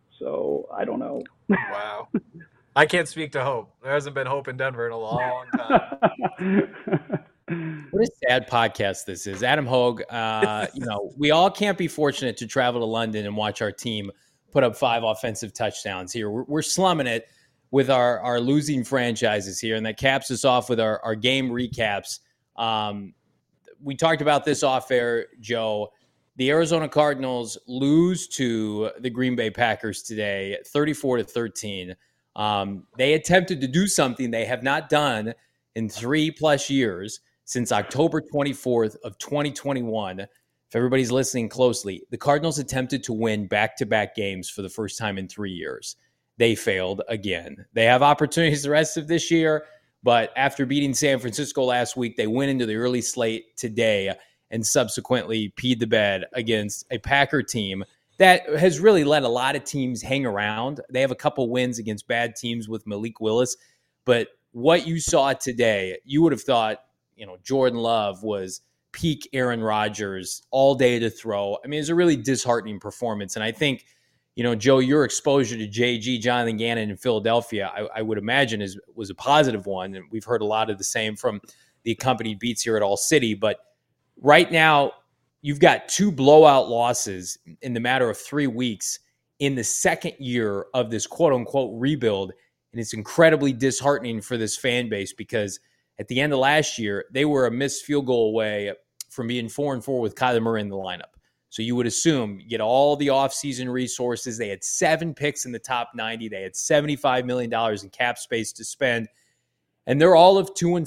So I don't know. Wow. I can't speak to hope. There hasn't been hope in Denver in a long time. What a sad podcast this is. Adam Hogue, uh, you know, we all can't be fortunate to travel to London and watch our team put up five offensive touchdowns here. We're, we're slumming it with our, our losing franchises here, and that caps us off with our, our game recaps. Um, we talked about this off air, Joe. The Arizona Cardinals lose to the Green Bay Packers today, thirty-four to thirteen. Um, they attempted to do something they have not done in three plus years since October twenty-fourth of twenty twenty-one. If everybody's listening closely, the Cardinals attempted to win back-to-back games for the first time in three years. They failed again. They have opportunities the rest of this year, but after beating San Francisco last week, they went into the early slate today and subsequently peed the bed against a Packer team that has really let a lot of teams hang around. They have a couple wins against bad teams with Malik Willis, but what you saw today, you would have thought, you know, Jordan Love was peak Aaron Rodgers all day to throw. I mean, it was a really disheartening performance. And I think, you know, Joe, your exposure to J G, Jonathan Gannon in Philadelphia, I, I would imagine is was a positive one. And we've heard a lot of the same from the accompanied beats here at All City. But right now, you've got two blowout losses in the matter of three weeks in the second year of this quote-unquote rebuild. And it's incredibly disheartening for this fan base because at the end of last year, they were a missed field goal away from being four and four with Kyler Murray in the lineup. So you would assume you get all the offseason resources. They had seven picks in the top ninety. They had seventy-five million dollars in cap space to spend. And they're all of two and four.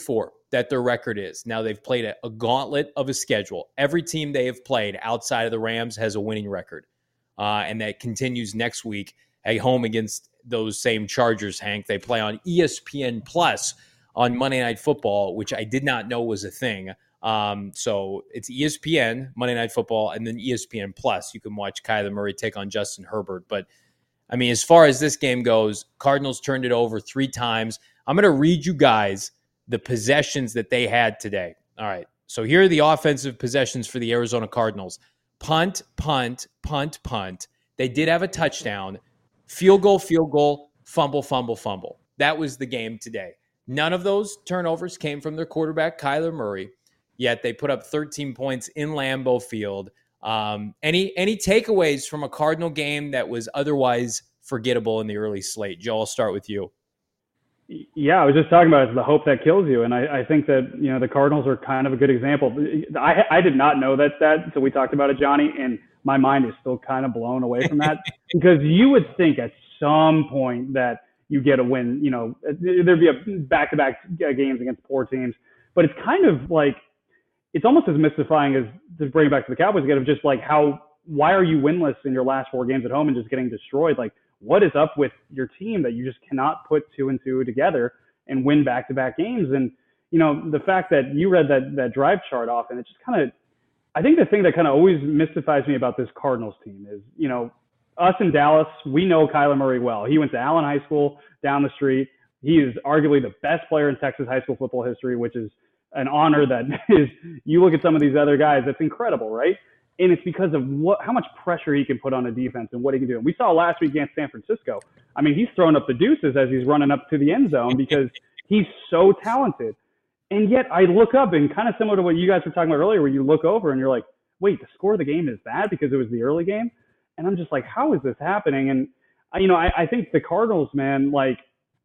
that their record is. Now, they've played a, a gauntlet of a schedule. Every team they have played outside of the Rams has a winning record. Uh, and that continues next week at home against those same Chargers, Hank. They play on E S P N Plus on Monday Night Football, which I did not know was a thing. Um, so it's E S P N, Monday Night Football, and then E S P N Plus. You can watch Kyler Murray take on Justin Herbert. But, I mean, as far as this game goes, Cardinals turned it over three times. I'm going to read you guys the possessions that they had today. All right. So here are the offensive possessions for the Arizona Cardinals. Punt, punt, punt, punt. They did have a touchdown. Field goal, field goal, fumble, fumble, fumble. That was the game today. None of those turnovers came from their quarterback, Kyler Murray, yet they put up thirteen points in Lambeau Field. Um, any any takeaways from a Cardinal game that was otherwise forgettable in the early slate? Joe, I'll start with you. Yeah, I was just talking about it's the hope that kills you, and I, I think that you know the Cardinals are kind of a good example. I I did not know that stat until we talked about it, Johnny, and my mind is still kind of blown away from that because you would think at some point that you get a win. You know, there'd be a back-to-back games against poor teams, but it's kind of like it's almost as mystifying as to bring it back to the Cowboys again of just like how why are you winless in your last four games at home and just getting destroyed? Like, what is up with your team that you just cannot put two and two together and win back-to-back games? And, you know, the fact that you read that that drive chart off, and it just kind of, I think the thing that kind of always mystifies me about this Cardinals team is, you know, us in Dallas, we know Kyler Murray well. He went to Allen High School down the street. He is arguably the best player in Texas high school football history, which is an honor that is, you look at some of these other guys, that's incredible, right? And it's because of what, how much pressure he can put on a defense and what he can do. And we saw last week against San Francisco. I mean, he's throwing up the deuces as he's running up to the end zone because he's so talented. And yet I look up and kind of similar to what you guys were talking about earlier, where you look over and you're like, wait, the score of the game is that because it was the early game? And I'm just like, how is this happening? And, you know, I, I think the Cardinals, man, like,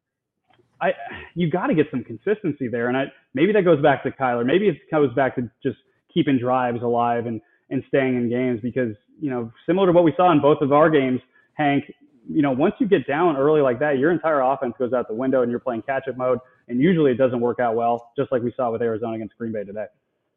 I you got to get some consistency there. And I maybe that goes back to Kyler. Maybe it goes back to just keeping drives alive and, and staying in games because, you know, similar to what we saw in both of our games, Hank, you know, once you get down early like that, your entire offense goes out the window and you're playing catch-up mode. And usually it doesn't work out well, just like we saw with Arizona against Green Bay today.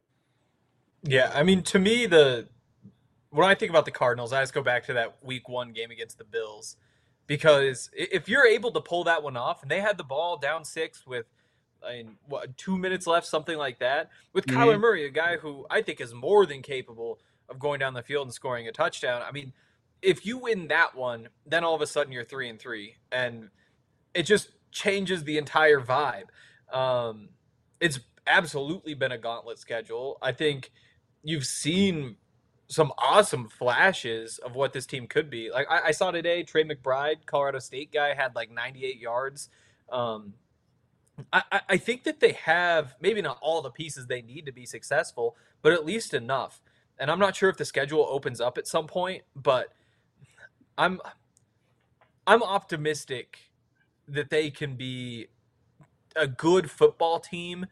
Yeah, I mean, to me, the when I think about the Cardinals, I just go back to that week one game against the Bills. Because if you're able to pull that one off, and they had the ball down six with I mean, what, two minutes left, something like that, with mm-hmm. Kyler Murray, a guy who I think is more than capable of going down the field and scoring a touchdown. I mean, if you win that one, then all of a sudden you're three and three, and it just changes the entire vibe. Um, it's absolutely been a gauntlet schedule. I think you've seen some awesome flashes of what this team could be. Like I, I saw today, Trey McBride, Colorado State guy, had like ninety-eight yards. Um, I, I think that they have maybe not all the pieces they need to be successful, but at least enough. And I'm not sure if the schedule opens up at some point, but I'm I'm optimistic that they can be a good football team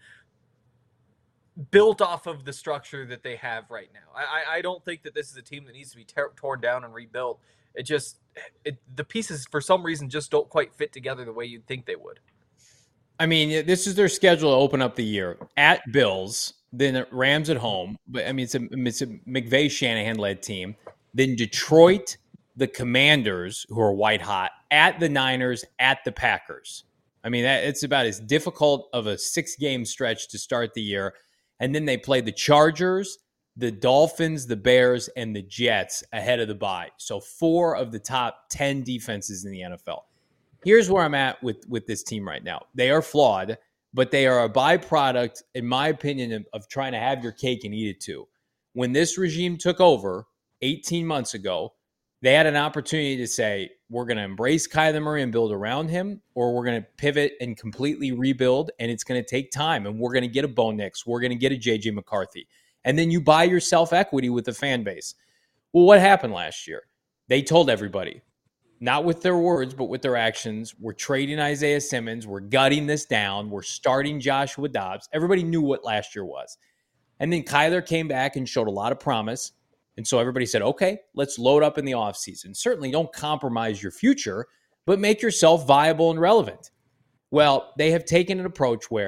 built off of the structure that they have right now. I, I don't think that this is a team that needs to be ter- torn down and rebuilt. It just it, the pieces for some reason just don't quite fit together the way you'd think they would. I mean, this is their schedule to open up the year at Bills, then Rams at home. But I mean, it's a it's a McVay Shanahan-led team. Then Detroit, the Commanders, who are white hot, at the Niners, at the Packers. I mean, that, it's about as difficult of a six-game stretch to start the year. And then they play the Chargers, the Dolphins, the Bears, and the Jets ahead of the bye. So four of the top ten defenses in the N F L. Here's where I'm at with, with this team right now. They are flawed, but they are a byproduct, in my opinion, of, of trying to have your cake and eat it too. When this regime took over eighteen months ago, they had an opportunity to say, we're going to embrace Kyler Murray and build around him, or we're going to pivot and completely rebuild, and it's going to take time, and we're going to get a Bo Nix, we're going to get a J J McCarthy. And then you buy yourself equity with the fan base. Well, what happened last year? They told everybody, not with their words, but with their actions, we're trading Isaiah Simmons, we're gutting this down, we're starting Joshua Dobbs. Everybody knew what last year was. And then Kyler came back and showed a lot of promise. And so everybody said, okay, let's load up in the offseason. Certainly don't compromise your future, but make yourself viable and relevant. Well, they have taken an approach where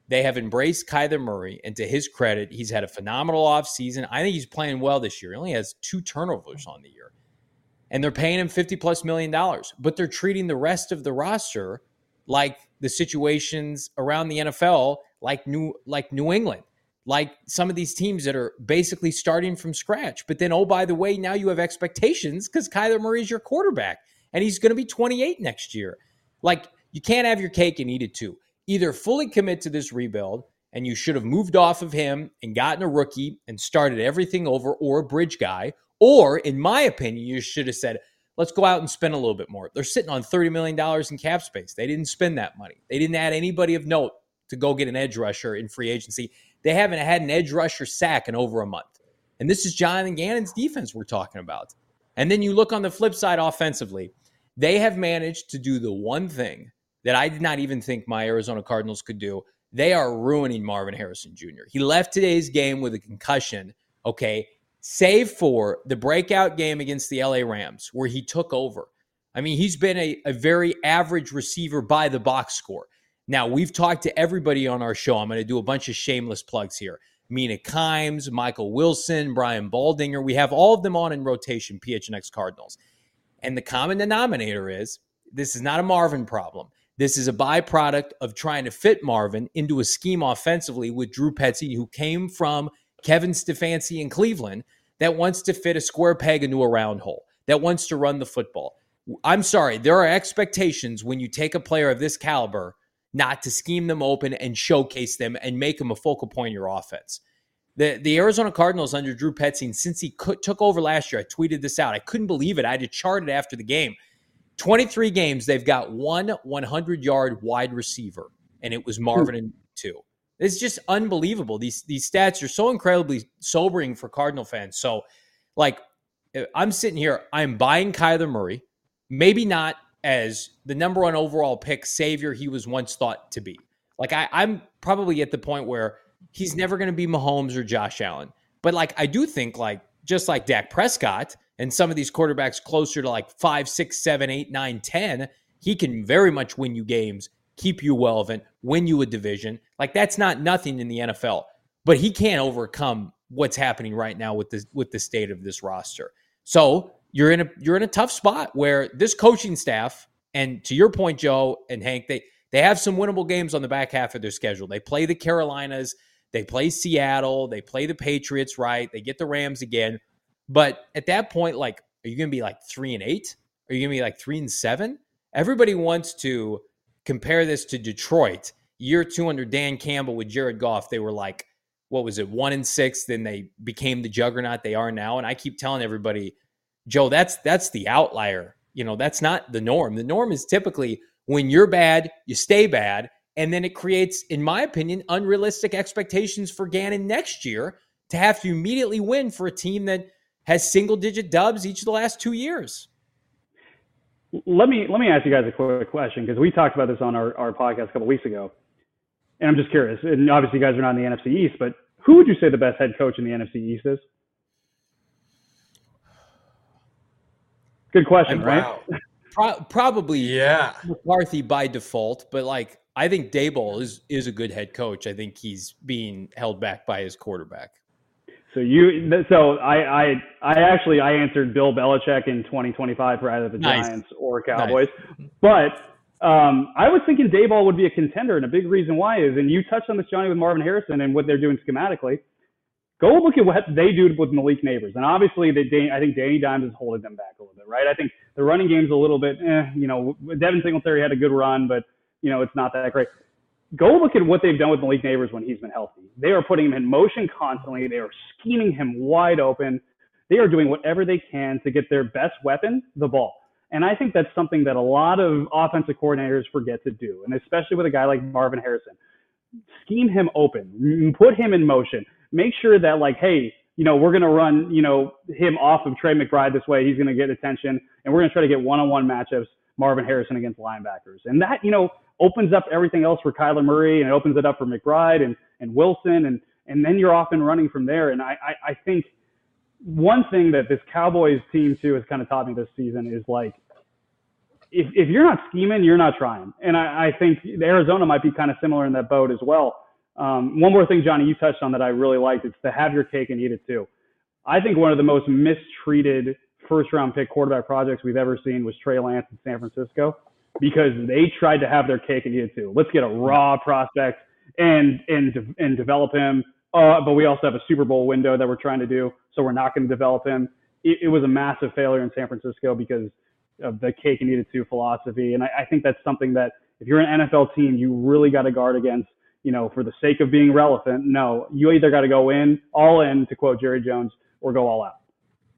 They have embraced Kyler Murray, and to his credit, he's had a phenomenal offseason. I think he's playing well this year. He only has two turnovers on the year. And they're paying him fifty plus million dollars, but they're treating the rest of the roster like the situations around the N F L, like New like New England, like some of these teams that are basically starting from scratch. But then, oh, by the way, now you have expectations because Kyler Murray is your quarterback, and he's going to be twenty-eight next year. Like, you can't have your cake and eat it too. Either fully commit to this rebuild, and you should have moved off of him and gotten a rookie and started everything over, or a bridge guy. Or, in my opinion, you should have said, let's go out and spend a little bit more. They're sitting on thirty million dollars in cap space. They didn't spend that money. They didn't add anybody of note to go get an edge rusher in free agency. They haven't had an edge rusher sack in over a month. And this is Jonathan Gannon's defense we're talking about. And then you look on the flip side offensively. They have managed to do the one thing that I did not even think my Arizona Cardinals could do. They are ruining Marvin Harrison Junior He left today's game with a concussion, okay, save for the breakout game against the L A Rams where he took over. I mean, he's been a, a very average receiver by the box score. Now, we've talked to everybody on our show. I'm going to do a bunch of shameless plugs here. Mina Kimes, Michael Wilson, Brian Baldinger. We have all of them on in rotation, P H N X Cardinals. And the common denominator is this is not a Marvin problem. This is a byproduct of trying to fit Marvin into a scheme offensively with Drew Petzing, who came from Kevin Stefanski in Cleveland, that wants to fit a square peg into a round hole, that wants to run the football. I'm sorry, there are expectations when you take a player of this caliber not to scheme them open and showcase them and make them a focal point of your offense. The the Arizona Cardinals under Drew Petzing, since he could, took over last year, I tweeted this out. I couldn't believe it. I had to chart it after the game. twenty-three games, they've got one hundred-yard wide receiver, and it was Marvin and two. It's just unbelievable. These these stats are so incredibly sobering for Cardinal fans. So, like, I'm sitting here, I'm buying Kyler Murray, maybe not as the number one overall pick savior he was once thought to be. Like, I, I'm probably at the point where he's never going to be Mahomes or Josh Allen. But, like, I do think, like, just like Dak Prescott and some of these quarterbacks closer to, like, five, six, seven, eight, nine, ten, he can very much win you games, keep you relevant, win you a division. Like, that's not nothing in the N F L. But he can't overcome what's happening right now with the, with the state of this roster. So you're in a you're in a tough spot where this coaching staff, and to your point, Joe and Hank, they they have some winnable games on the back half of their schedule. They play the Carolinas, they play Seattle, they play the Patriots, right? They get the Rams again. But at that point, like, are you going to be like three and eight? Are you going to be like three and seven? Everybody wants to compare this to Detroit. Year two under Dan Campbell with Jared Goff, they were like, what was it, one and six? Then they became the juggernaut they are now. And I keep telling everybody, Joe, that's that's the outlier. You know, that's not the norm. The norm is typically when you're bad, you stay bad. And then it creates, in my opinion, unrealistic expectations for Gannon next year to have to immediately win for a team that has single-digit dubs each of the last two years. Let me let me ask you guys a quick question, because we talked about this on our, our podcast a couple weeks ago. And I'm just curious. And obviously you guys are not in the N F C East, but who would you say the best head coach in the N F C East is? Good question, right? Wow. Pro- probably Yeah. McCarthy by default, but like I think Daboll is is a good head coach. I think he's being held back by his quarterback. So you, so I, I, I actually I answered Bill Belichick in twenty twenty-five for either the Nice. Giants or Cowboys, Nice. but um, I was thinking Daboll would be a contender, and a big reason why is, and you touched on this, Johnny, with Marvin Harrison and what they're doing schematically. Go look at what they do with Malik Neighbors, and obviously they, I think Danny Dimes is holding them back a little bit, right? I think the running game's a little bit, eh, you know, Devin Singletary had a good run, but you know it's not that great. Go look at what they've done with Malik Neighbors when he's been healthy. They are putting him in motion constantly. They are scheming him wide open. They are doing whatever they can to get their best weapon, the ball. And I think that's something that a lot of offensive coordinators forget to do, and especially with a guy like Marvin Harrison. Scheme him open. Put him in motion. Make sure that, like, hey, you know, we're going to run, you know, him off of Trey McBride this way. He's going to get attention, and we're going to try to get one-on-one matchups, Marvin Harrison against linebackers. And that, you know, opens up everything else for Kyler Murray, and it opens it up for McBride and, and Wilson, and, and then you're off and running from there. And I, I, I think one thing that this Cowboys team, too, has kind of taught me this season is, like, if, if you're not scheming, you're not trying. And I, I think Arizona might be kind of similar in that boat as well. Um, one more thing, Johnny, you touched on that I really liked. It's to have your cake and eat it too. I think one of the most mistreated first round pick quarterback projects we've ever seen was Trey Lance in San Francisco, because they tried to have their cake and eat it too. Let's get a raw prospect and and and develop him. Uh, but we also have a Super Bowl window that we're trying to do, so we're not going to develop him. It, it was a massive failure in San Francisco because of the cake and eat it too philosophy. And I, I think that's something that if you're an N F L team, you really got to guard against, you know, for the sake of being relevant. No, you either got to go in, all in, to quote Jerry Jones, or go all out.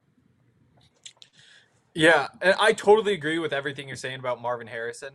Yeah, and I totally agree with everything you're saying about Marvin Harrison.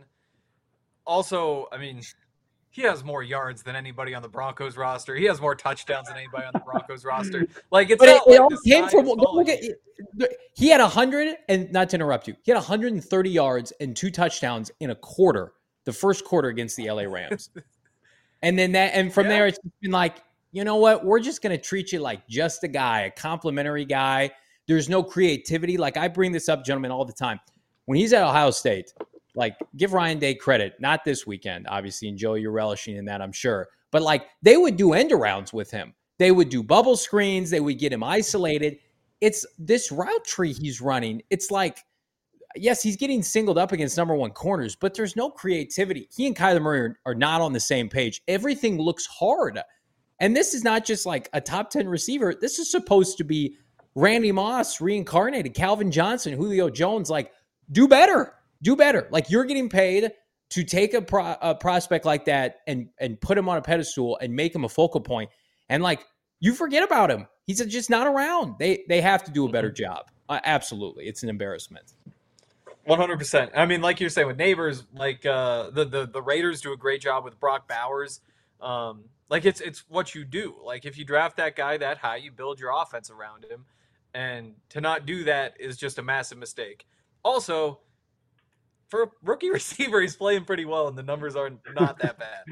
Also, I mean, he has more yards than anybody on the Broncos roster. He has more touchdowns than anybody on the Broncos roster. Like, it's but not it, like it all the came sky from is go look falling. at, he had one hundred, and not to interrupt you, he had one hundred thirty yards and two touchdowns in a quarter, the first quarter against the L A Rams. And then that, and from Yeah. there, it's been like, you know what? We're just going to treat you like just a guy, a complimentary guy. There's no creativity. Like, I bring this up, gentlemen, all the time. When he's at Ohio State, like, give Ryan Day credit. Not this weekend, obviously, and Joe, you're relishing in that, I'm sure. But, like, they would do end arounds with him. They would do bubble screens. They would get him isolated. It's this route tree he's running. It's like, yes, he's getting singled up against number one corners, but there's no creativity. He and Kyler Murray are, are not on the same page. Everything looks hard. And this is not just like a top ten receiver. This is supposed to be Randy Moss reincarnated, Calvin Johnson, Julio Jones. Like, do better. Do better. Like, you're getting paid to take a, pro, a prospect like that and, and put him on a pedestal and make him a focal point. And, like, you forget about him. He's just not around. They they have to do a better job. Uh, absolutely. It's an embarrassment. one hundred percent. I mean, like you're saying with Neighbors, like uh, the, the the Raiders do a great job with Brock Bowers. Um, like it's it's what you do. Like, if you draft that guy that high, you build your offense around him, and to not do that is just a massive mistake. Also, for a rookie receiver, he's playing pretty well, and the numbers are not that bad.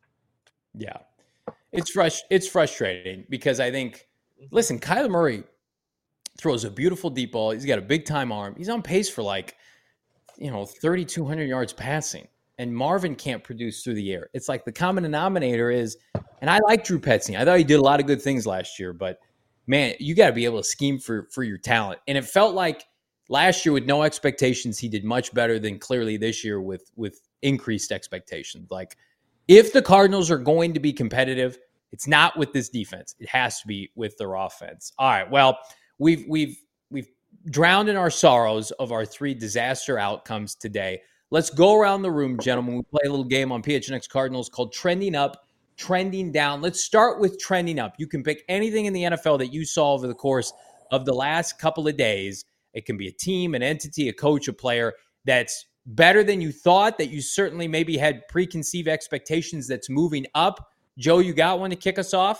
Yeah, it's frust- It's frustrating because I think, listen, Kyler Murray throws a beautiful deep ball. He's got a big time arm. He's on pace for like, you know, thirty-two hundred yards passing. And Marvin can't produce through the air. It's like the common denominator is, and I like Drew Petzing. I thought he did a lot of good things last year, but man, you got to be able to scheme for, for your talent. And it felt like last year with no expectations, he did much better than clearly this year with, with increased expectations. Like, if the Cardinals are going to be competitive, it's not with this defense. It has to be with their offense. All right. Well, we've, we've, we've drowned in our sorrows of our three disaster outcomes today. Let's go around the room, gentlemen. We play a little game on P H N X Cardinals called Trending Up, Trending Down. Let's start with Trending Up. You can pick anything in the N F L that you saw over the course of the last couple of days. It can be a team, an entity, a coach, a player that's better than you thought, that you certainly maybe had preconceived expectations, that's moving up. Joe, you got one to kick us off?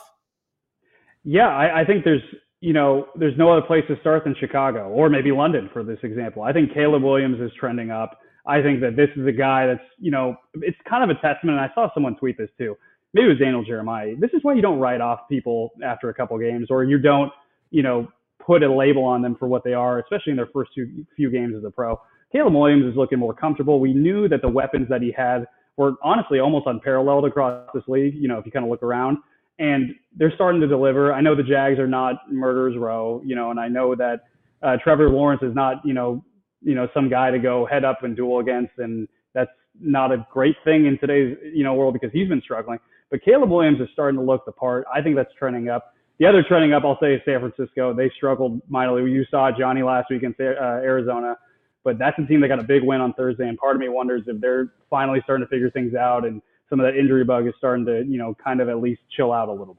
Yeah, I, I think there's, you know, there's no other place to start than Chicago, or maybe London for this example. I think Caleb Williams is trending up. I think that this is a guy that's, you know, it's kind of a testament. And I saw someone tweet this too. Maybe it was Daniel Jeremiah. This is why you don't write off people after a couple games, or you don't, you know, put a label on them for what they are, especially in their first few, few games as a pro. Caleb Williams is looking more comfortable. We knew that the weapons that he had were honestly almost unparalleled across this league, you know, if you kind of look around. And they're starting to deliver. I know the Jags are not murderer's row, you know, and I know that uh, Trevor Lawrence is not, you know, you know, some guy to go head up and duel against. And that's not a great thing in today's, you know, world, because he's been struggling. But Caleb Williams is starting to look the part. I think that's trending up. The other trending up, I'll say, is San Francisco. They struggled mightily. You saw Johnny last week in uh, Arizona. But that's a team that got a big win on Thursday. And part of me wonders if they're finally starting to figure things out and some of that injury bug is starting to, you know, kind of at least chill out a little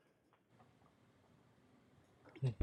bit.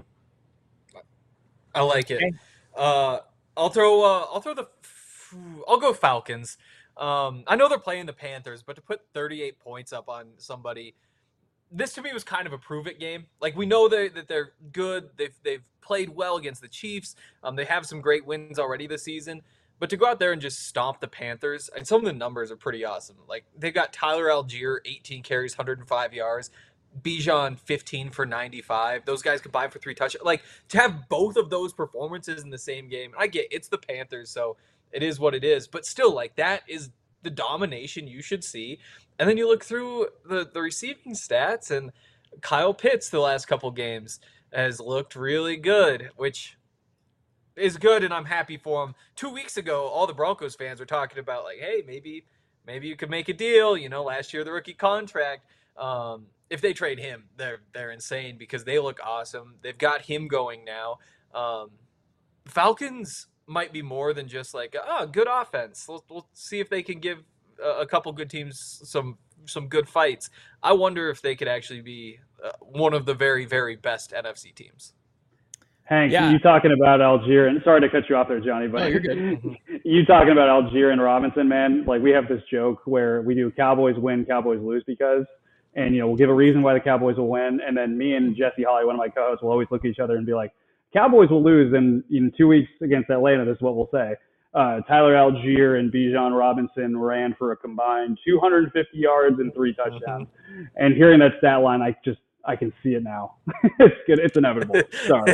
I like it. Uh, I'll throw. Uh, I'll throw the. I'll go Falcons. Um, I know they're playing the Panthers, but to put thirty-eight points up on somebody, this to me was kind of a prove it game. Like, we know they, that they're good. They've they've played well against the Chiefs. Um, they have some great wins already this season. But to go out there and just stomp the Panthers, and some of the numbers are pretty awesome. Like, they've got Tyler Algier, eighteen carries, one hundred five yards. Bijan, fifteen for ninety-five. Those guys combined for three touchdowns. Like, to have both of those performances in the same game, I get it's the Panthers, so it is what it is. But still, like, that is the domination you should see. And then you look through the, the receiving stats, and Kyle Pitts the last couple games has looked really good, which is good, and I'm happy for him. Two weeks ago, all the Broncos fans were talking about, like, hey, maybe maybe you could make a deal. You know, last year the rookie contract. Um, if they trade him, they're they're insane because they look awesome. They've got him going now. Um, Falcons might be more than just like, oh, good offense. We'll, we'll see if they can give a, a couple good teams some some good fights. I wonder if they could actually be uh, one of the very, very best N F C teams. Hank, Yeah. you talking about Algier, and sorry to cut you off there, Johnny, but No, you're good. you talking about Algier and Robinson, man. Like, we have this joke where we do Cowboys win, Cowboys lose because, and, you know, we'll give a reason why the Cowboys will win. And then me and Jesse Holly, one of my co-hosts, will always look at each other and be like, Cowboys will lose. And in two weeks against Atlanta, this is what we'll say. Uh, Tyler Algier and Bijan Robinson ran for a combined two hundred fifty yards and three touchdowns. And hearing that stat line, I just, I can see it now. It's good. It's inevitable. Sorry.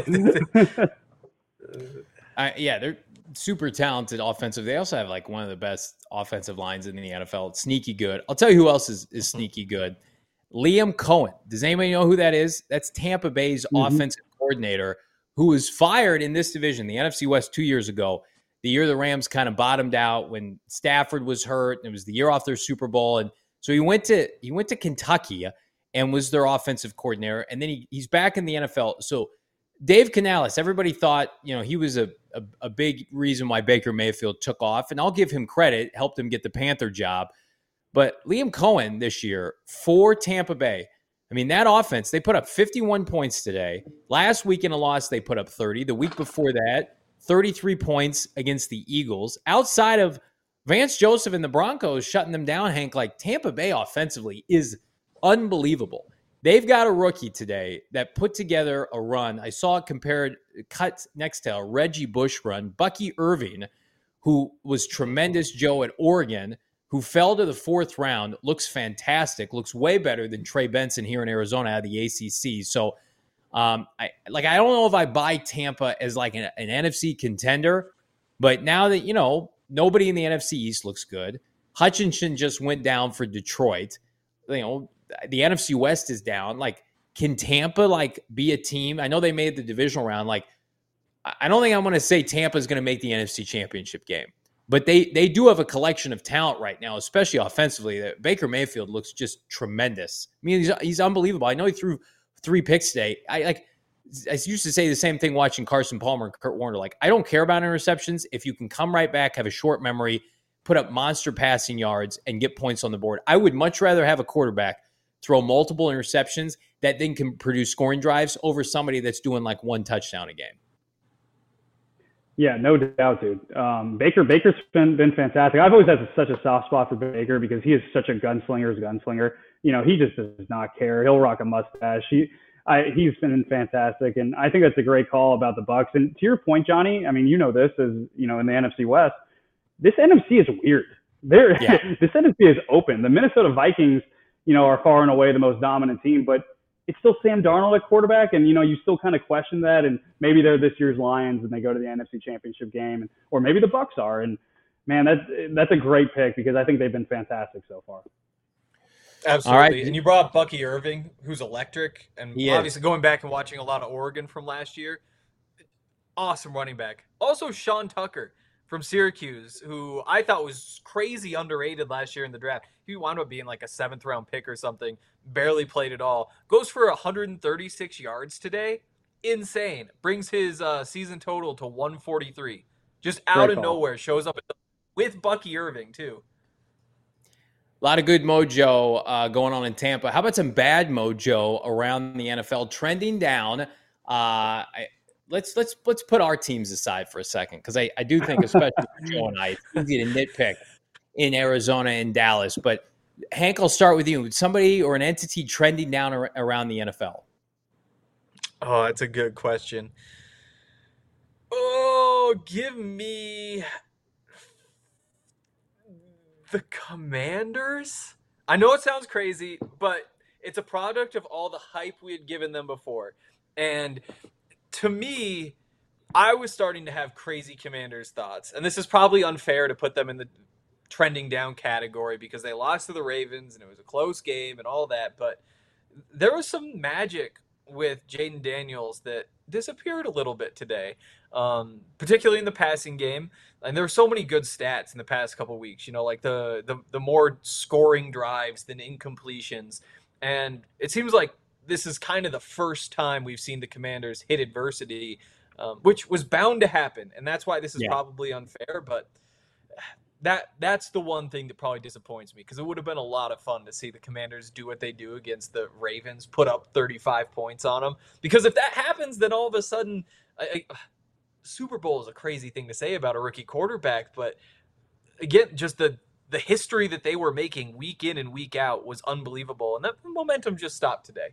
Uh, yeah, they're super talented offensive. They also have like one of the best offensive lines in the N F L. It's sneaky good. I'll tell you who else is, is sneaky good. Liam Cohen. Does anybody know who that is? That's Tampa Bay's mm-hmm. offensive coordinator who was fired in this division, the N F C West, two years ago. The year the Rams kind of bottomed out when Stafford was hurt. And it was the year off their Super Bowl. And so he went to he went to Kentucky and was their offensive coordinator. And then he, he's back in the N F L. So Dave Canales, everybody thought, you know, he was a, a, a big reason why Baker Mayfield took off. And I'll give him credit, helped him get the Panther job. But Liam Cohen this year for Tampa Bay, I mean, that offense, they put up fifty-one points today. Last week in a loss, they put up thirty. The week before that, thirty-three points against the Eagles. Outside of Vance Joseph and the Broncos shutting them down, Hank, like Tampa Bay offensively is unbelievable. They've got a rookie today that put together a run. I saw it compared, cut next to a Reggie Bush run. Bucky Irving, who was tremendous, Joe, at Oregon, who fell to the fourth round, looks fantastic, looks way better than Trey Benson here in Arizona out of the A C C. So, um, I like I don't know if I buy Tampa as like an, an N F C contender, but now that, you know, nobody in the N F C East looks good. Hutchinson just went down for Detroit. You know, the N F C West is down. Like, can Tampa like be a team? I know they made the divisional round. Like, I don't think I'm going to say Tampa is going to make the N F C Championship game, but they they do have a collection of talent right now, especially offensively. That Baker Mayfield looks just tremendous. I mean, he's he's unbelievable. I know he threw three picks today. I like. I used to say the same thing watching Carson Palmer and Kurt Warner. Like, I don't care about interceptions. If you can come right back, have a short memory, put up monster passing yards, and get points on the board. I would much rather have a quarterback throw multiple interceptions that then can produce scoring drives over somebody that's doing like one touchdown a game. Yeah, no doubt, dude. Um, Baker, Baker's been been fantastic. I've always had such a soft spot for Baker because he is such a gunslinger's gunslinger. You know, he just does not care. He'll rock a mustache. He, I, he's been fantastic, and I think that's a great call about the Bucs. And to your point, Johnny, I mean, you know this as you know in the N F C West, this N F C is weird. There, yeah. This N F C is open. The Minnesota Vikings, you know, are far and away the most dominant team, but it's still Sam Darnold at quarterback, and you know you still kind of question that. And maybe they're this year's Lions and they go to the N F C Championship game, and, or maybe the Bucs are. And man, that's that's a great pick because I think they've been fantastic so far. Absolutely. All right. And you brought up Bucky Irving, who's electric, and he obviously is. Going back and watching a lot of Oregon from last year. Awesome running back. Also, Sean Tucker from Syracuse, who I thought was crazy underrated last year in the draft. He wound up being like a seventh round pick or something. Barely played at all. Goes for one hundred thirty-six yards today. Insane. Brings his uh, season total to one forty-three. Just out Great of call. Nowhere. Shows up with Bucky Irving, too. A lot of good mojo uh, going on in Tampa. How about some bad mojo around the N F L trending down? Uh, I, let's let's let's put our teams aside for a second because I, I do think, especially for Joe and I, it's easy to nitpick in Arizona and Dallas. But Hank, I'll start with you. Somebody or an entity trending down ar- around the N F L? Oh, that's a good question. Oh, give me the Commanders. I know it sounds crazy, but it's a product of all the hype we had given them before. And to me, I was starting to have crazy Commanders thoughts. And this is probably unfair to put them in the trending down category because they lost to the Ravens and it was a close game and all that. But there was some magic with Jaden Daniels that disappeared a little bit today, um, particularly in the passing game. And there were so many good stats in the past couple weeks, you know, like the, the, the more scoring drives than incompletions. And it seems like this is kind of the first time we've seen the Commanders hit adversity, um, which was bound to happen. And that's why this is yeah. probably unfair. But that that's the one thing that probably disappoints me, because it would have been a lot of fun to see the Commanders do what they do against the Ravens, put up thirty-five points on them. Because if that happens, then all of a sudden, I, I, Super Bowl is a crazy thing to say about a rookie quarterback. But again, just the the history that they were making week in and week out was unbelievable. And that momentum just stopped today.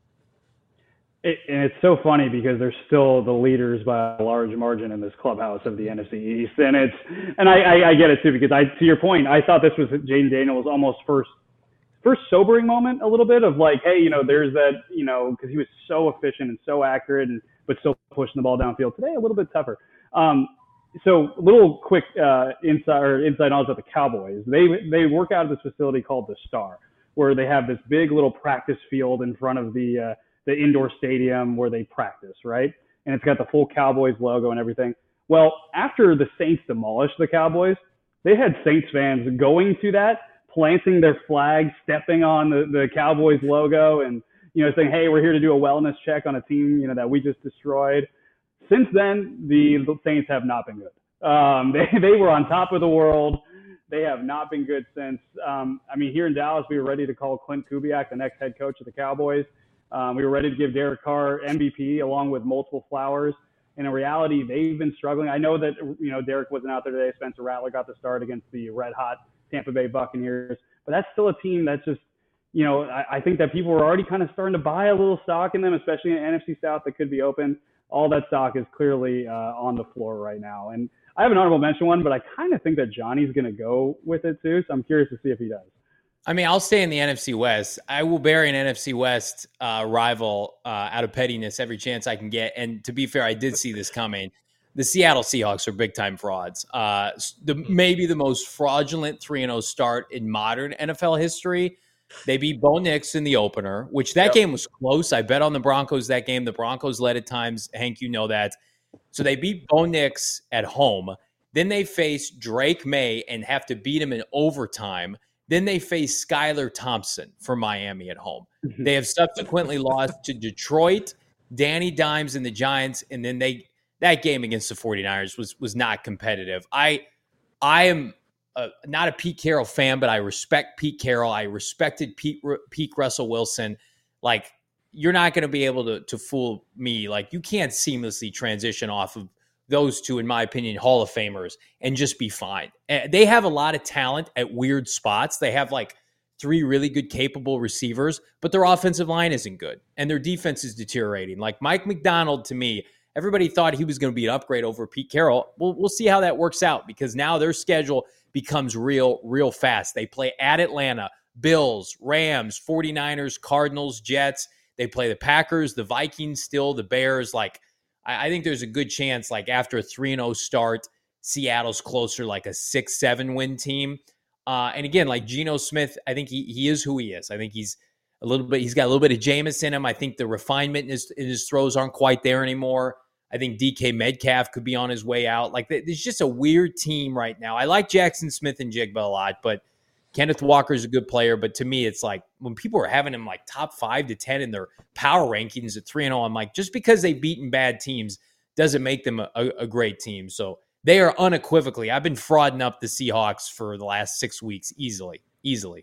It, and it's so funny because they're still the leaders by a large margin in this clubhouse of the N F C East, and it's and I, I, I get it too, because I to your point, I thought this was Jaden Daniels' almost first first sobering moment a little bit of like, hey, you know, there's that, you know, because he was so efficient and so accurate, and but still pushing the ball downfield. Today a little bit tougher. Um, so a little quick uh, inside or inside knowledge about the Cowboys. They they work out of this facility called the Star, where they have this big little practice field in front of the uh, the indoor stadium where they practice, right? And it's got the full Cowboys logo and everything. Well, after the Saints demolished the Cowboys, they had Saints fans going to that, planting their flag, stepping on the, the Cowboys logo, and, you know, saying, hey, we're here to do a wellness check on a team, you know, that we just destroyed. Since then, the Saints have not been good. Um, they, they were on top of the world. They have not been good since. Um, I mean, here in Dallas, we were ready to call Clint Kubiak the next head coach of the Cowboys. Um, we were ready to give Derek Carr M V P along with multiple flowers. And in reality, they've been struggling. I know that, you know, Derek wasn't out there today. Spencer Rattler got the start against the red-hot Tampa Bay Buccaneers. But that's still a team that's just, you know, I, I think that people are already kind of starting to buy a little stock in them, especially in N F C South that could be open. All that stock is clearly uh, on the floor right now. And I have an honorable mention one, but I kind of think that Johnny's going to go with it too. So I'm curious to see if he does. I mean, I'll stay in the N F C West. I will bury an N F C West uh, rival uh, out of pettiness every chance I can get. And to be fair, I did see this coming. The Seattle Seahawks are big-time frauds. Uh, the, maybe the most fraudulent three and oh start in modern N F L history. They beat Bo Nix in the opener, which that yep. game was close. I bet on the Broncos that game. The Broncos led at times. Hank, you know that. So they beat Bo Nix at home. Then they face Drake May and have to beat him in overtime. Then they face Skylar Thompson for Miami at home. Mm-hmm. They have subsequently lost to Detroit, Danny Dimes, and the Giants. And then they that game against the 49ers was was not competitive. I I am a, not a Pete Carroll fan, but I respect Pete Carroll. I respected Pete Pete Russell Wilson. Like, you're not going to be able to to fool me. Like, you can't seamlessly transition off of those two, in my opinion, Hall of Famers, and just be fine. They have a lot of talent at weird spots. They have like three really good, capable receivers, but their offensive line isn't good, and their defense is deteriorating. Like Mike McDonald, to me, everybody thought he was going to be an upgrade over Pete Carroll. We'll, we'll see how that works out, because now their schedule becomes real, real fast. They play at Atlanta, Bills, Rams, 49ers, Cardinals, Jets. They play the Packers, the Vikings still, the Bears. Like, I think there's a good chance, like, after a three and oh start, Seattle's closer, like a six seven win team. Uh, and again, like Geno Smith, I think he he is who he is. I think he's a little bit, he's got a little bit of Jameis in him. I think the refinement in his, in his throws aren't quite there anymore. I think D K Metcalf could be on his way out. Like, there's just a weird team right now. I like Jackson Smith and Jigba a lot, but Kenneth Walker's a good player. But to me, it's like when people are having him like top five to ten in their power rankings at three and oh, I'm like, just because they've beaten bad teams doesn't make them a, a great team. So they are unequivocally, I've been frauding up the Seahawks for the last six weeks easily, easily.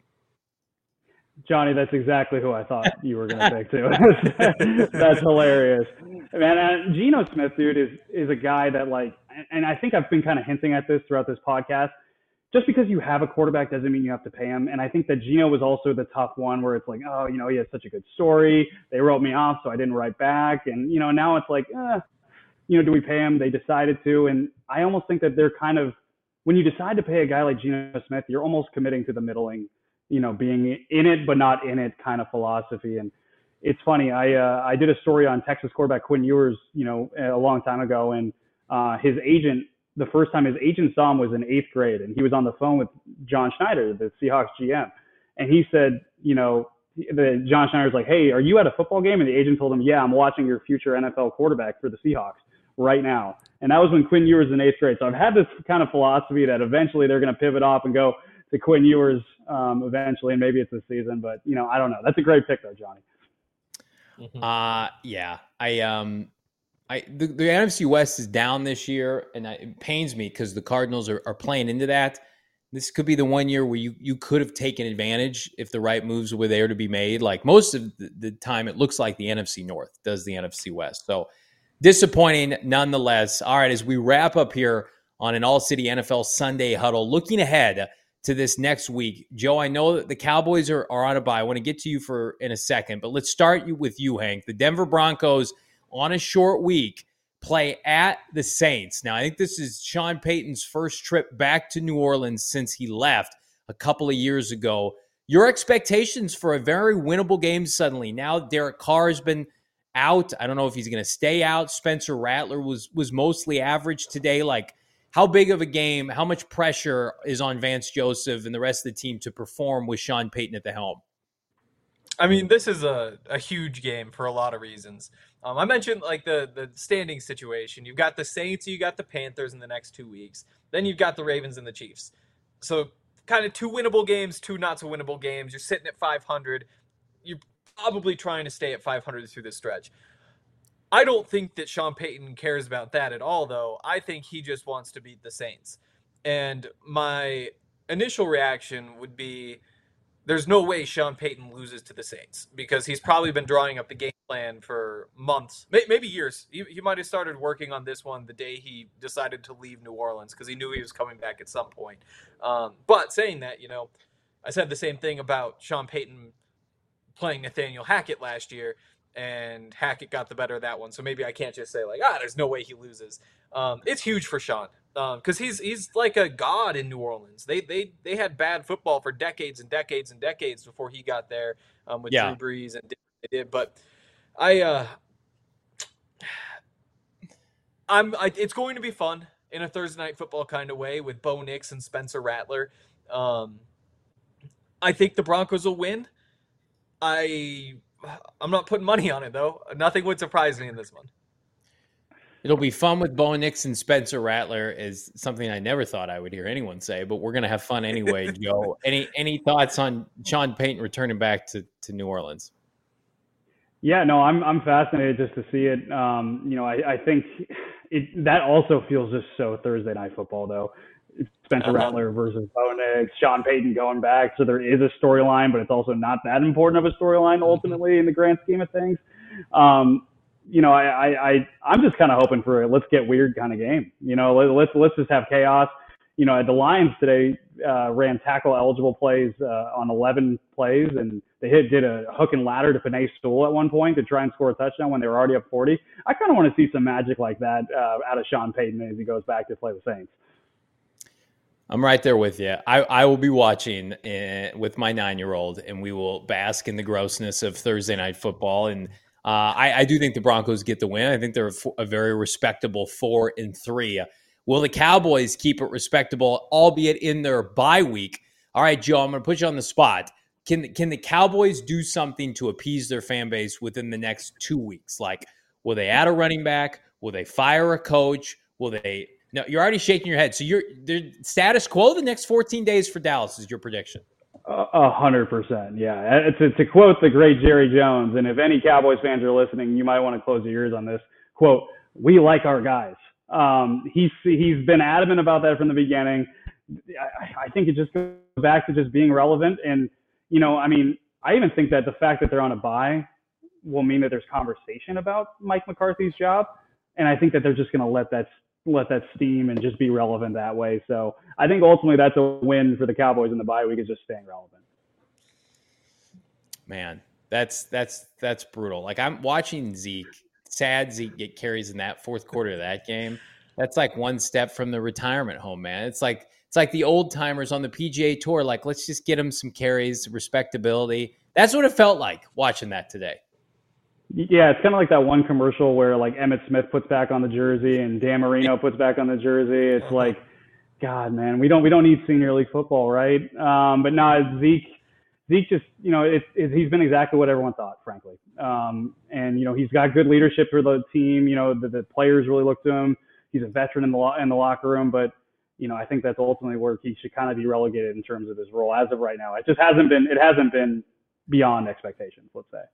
Johnny, that's exactly who I thought you were going to pick too. That's hilarious, man. Uh, Geno Smith, dude, is is a guy that, like, and I think I've been kind of hinting at this throughout this podcast. Just because you have a quarterback doesn't mean you have to pay him. And I think that Geno was also the tough one where it's like, oh, you know, he has such a good story. They wrote me off, so I didn't write back. And, you know, now it's like, eh, you know, do we pay him? They decided to. And I almost think that they're kind of, when you decide to pay a guy like Geno Smith, you're almost committing to the middling, you know, being in it but not in it kind of philosophy. And it's funny. I uh, I did a story on Texas quarterback Quinn Ewers, you know, a long time ago. And uh, his agent the first time his agent saw him was in eighth grade, and he was on the phone with John Schneider, the Seahawks G M, and he said, you know, the John Schneider's like, hey, are you at a football game? And the agent told him, yeah, I'm watching your future N F L quarterback for the Seahawks right now. And that was when Quinn Ewers was in eighth grade. So I've had this kind of philosophy that eventually they're going to pivot off and go to Quinn Ewers um, eventually, and maybe it's this season. But, you know, I don't know. That's a great pick, though, Johnny. Uh, yeah. I um, I the, the N F C West is down this year, and I, it pains me because the Cardinals are, are playing into that. This could be the one year where you, you could have taken advantage if the right moves were there to be made. Like most of the, the time, it looks like the N F C North does the N F C West. So disappointing nonetheless. All right, as we wrap up here on an All-City N F L Sunday Huddle, looking ahead to this next week. Joe, I know that the Cowboys are, are on a bye. I want to get to you for in a second, but let's start you with you, Hank. The Denver Broncos on a short week play at the Saints. Now, I think this is Sean Payton's first trip back to New Orleans since he left a couple of years ago. Your expectations for a very winnable game suddenly. Now Derek Carr has been out. I don't know if he's going to stay out. Spencer Rattler was was mostly average today. Like, how big of a game, how much pressure is on Vance Joseph and the rest of the team to perform with Sean Payton at the helm? I mean, this is a, a huge game for a lot of reasons. Um, I mentioned like the, the standing situation. You've got the Saints, you got the Panthers in the next two weeks. Then you've got the Ravens and the Chiefs. So kind of two winnable games, two not so winnable games. You're sitting at five hundred. You're probably trying to stay at five hundred through this stretch. I don't think that Sean Payton cares about that at all, though. I think he just wants to beat the Saints. And my initial reaction would be, there's no way Sean Payton loses to the Saints because he's probably been drawing up the game plan for months, maybe years. He, he might have started working on this one the day he decided to leave New Orleans because he knew he was coming back at some point. Um, but saying that, you know, I said the same thing about Sean Payton playing Nathaniel Hackett last year, and Hackett got the better of that one. So maybe I can't just say like, ah, there's no way he loses. Um, it's huge for Sean. Because um, he's he's like a god in New Orleans. They they they had bad football for decades and decades and decades before he got there um, with yeah. Drew Brees and did what they did. But I, uh, I'm I, it's going to be fun in a Thursday night football kind of way with Bo Nix and Spencer Rattler. Um, I think the Broncos will win. I I'm not putting money on it though. Nothing would surprise me in this one. It'll be fun with Bo Nix and Spencer Rattler is something I never thought I would hear anyone say, but we're going to have fun anyway, Joe. Any any thoughts on Sean Payton returning back to, to New Orleans? Yeah, no, I'm I'm fascinated just to see it. Um, you know, I, I think it that also feels just so Thursday night football, though. Spencer uh-huh. Rattler versus Bo Nix, Sean Payton going back. So there is a storyline, but it's also not that important of a storyline ultimately mm-hmm. in the grand scheme of things. Um, You know, I, I, I, I'm just kind of hoping for a let's get weird kind of game. You know, let, let's let's just have chaos. You know, the Lions today uh, ran tackle eligible plays uh, on eleven plays, and they hit, did a hook and ladder to Penei Sewell at one point to try and score a touchdown when they were already up forty. I kind of want to see some magic like that uh, out of Sean Payton as he goes back to play the Saints. I'm right there with you. I, I will be watching uh, with my nine-year-old, and we will bask in the grossness of Thursday night football. And Uh, I, I do think the Broncos get the win. I think they're a, a very respectable four and three. Will the Cowboys keep it respectable, albeit in their bye week? All right, Joe, I'm going to put you on the spot. Can can the Cowboys do something to appease their fan base within the next two weeks? Like, will they add a running back? Will they fire a coach? Will they? No, you're already shaking your head. So you're status quo the next fourteen days for Dallas is your prediction. A hundred percent, yeah. To, to quote the great Jerry Jones, and if any Cowboys fans are listening, you might want to close your ears on this quote. We like our guys. Um, he's he's been adamant about that from the beginning. I, I think it just goes back to just being relevant, and you know, I mean, I even think that the fact that they're on a bye will mean that there's conversation about Mike McCarthy's job, and I think that they're just going to let that. let that steam and just be relevant that way. So I think ultimately that's a win for the Cowboys in the bye week is just staying relevant. Man, that's, that's, that's brutal. Like I'm watching Zeke, sad Zeke get carries in that fourth quarter of that game. That's like one step from the retirement home, man. It's like, it's like the old timers on the P G A Tour. Like, let's just get him some carries, respectability. That's what it felt like watching that today. Yeah, it's kind of like that one commercial where like Emmitt Smith puts back on the jersey and Dan Marino puts back on the jersey. It's like, God, man, we don't we don't need senior league football, right? Um, but no, Zeke Zeke just, you know, it, it, he's been exactly what everyone thought, frankly. Um, and you know, he's got good leadership for the team. You know, the, the players really look to him. He's a veteran in the in the locker room, but you know, I think that's ultimately where he should kind of be relegated in terms of his role as of right now. It just hasn't been it hasn't been beyond expectations, let's say.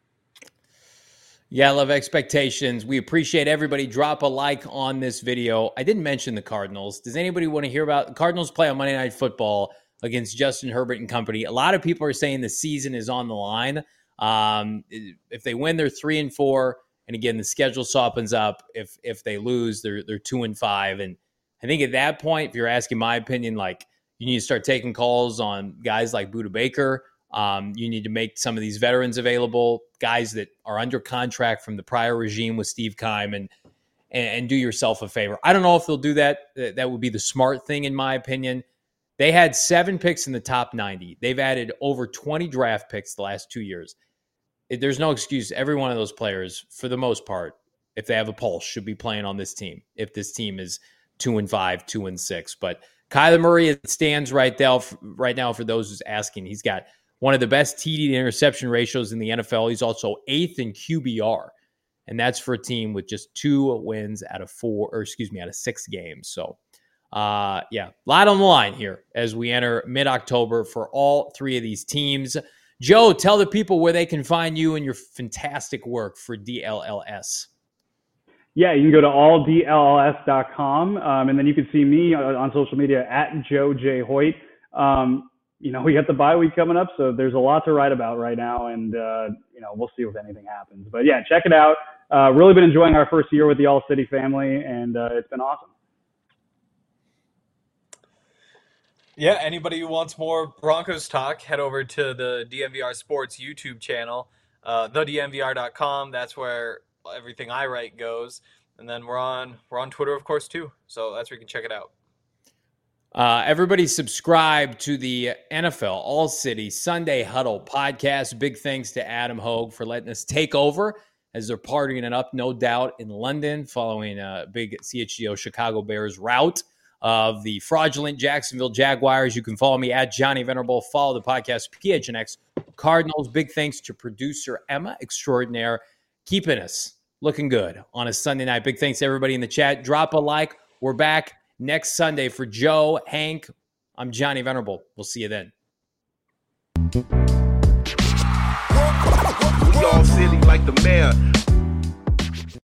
Yeah, I love expectations. We appreciate everybody. Drop a like on this video. I didn't mention the Cardinals. Does anybody want to hear about the Cardinals play on Monday Night Football against Justin Herbert and company? A lot of people are saying the season is on the line. Um, if they win, they're three and four. And again, the schedule softens up. If if they lose, they're they're two and five. And I think at that point, if you're asking my opinion, like you need to start taking calls on guys like Budda Baker. Um, you need to make some of these veterans available, guys that are under contract from the prior regime with Steve Keim, and, and and do yourself a favor. I don't know if they'll do that. That would be the smart thing, in my opinion. They had seven picks in the top ninety. They've added over twenty draft picks the last two years. There's no excuse. Every one of those players, for the most part, if they have a pulse, should be playing on this team. If this team is two and five, two and six, but Kyler Murray, it stands right now. Right now, for those who's asking, he's got one of the best T D to interception ratios in the N F L. He's also eighth in Q B R, and that's for a team with just two wins out of four, or excuse me, out of six games. So, uh, yeah, a lot on the line here as we enter mid-October for all three of these teams. Joe, tell the people where they can find you and your fantastic work for D L L S. Yeah, you can go to all D L L S dot com, um, and then you can see me on, on social media at Joe J. Hoyt. Um, You know, we got the bye week coming up, so there's a lot to write about right now, and, uh, you know, we'll see if anything happens. But, yeah, check it out. Uh, really been enjoying our first year with the All-City family, and uh, it's been awesome. Yeah, anybody who wants more Broncos talk, head over to the D M V R Sports YouTube channel, uh, the D M V R dot com. That's where everything I write goes. And then we're on we're on Twitter, of course, too. So that's where you can check it out. Uh, everybody subscribe to the N F L All City Sunday Huddle podcast. Big thanks to Adam Hogue for letting us take over as they're partying it up, no doubt, in London following a big C H G O Chicago Bears rout of the fraudulent Jacksonville Jaguars. You can follow me at Johnny Venerable. Follow the podcast P H N X Cardinals. Big thanks to producer Emma Extraordinaire, keeping us looking good on a Sunday night. Big thanks to everybody in the chat. Drop a like. We're back next Sunday for Joe, Hank. I'm Johnny Venerable. We'll see you then. We all silly like the mayor.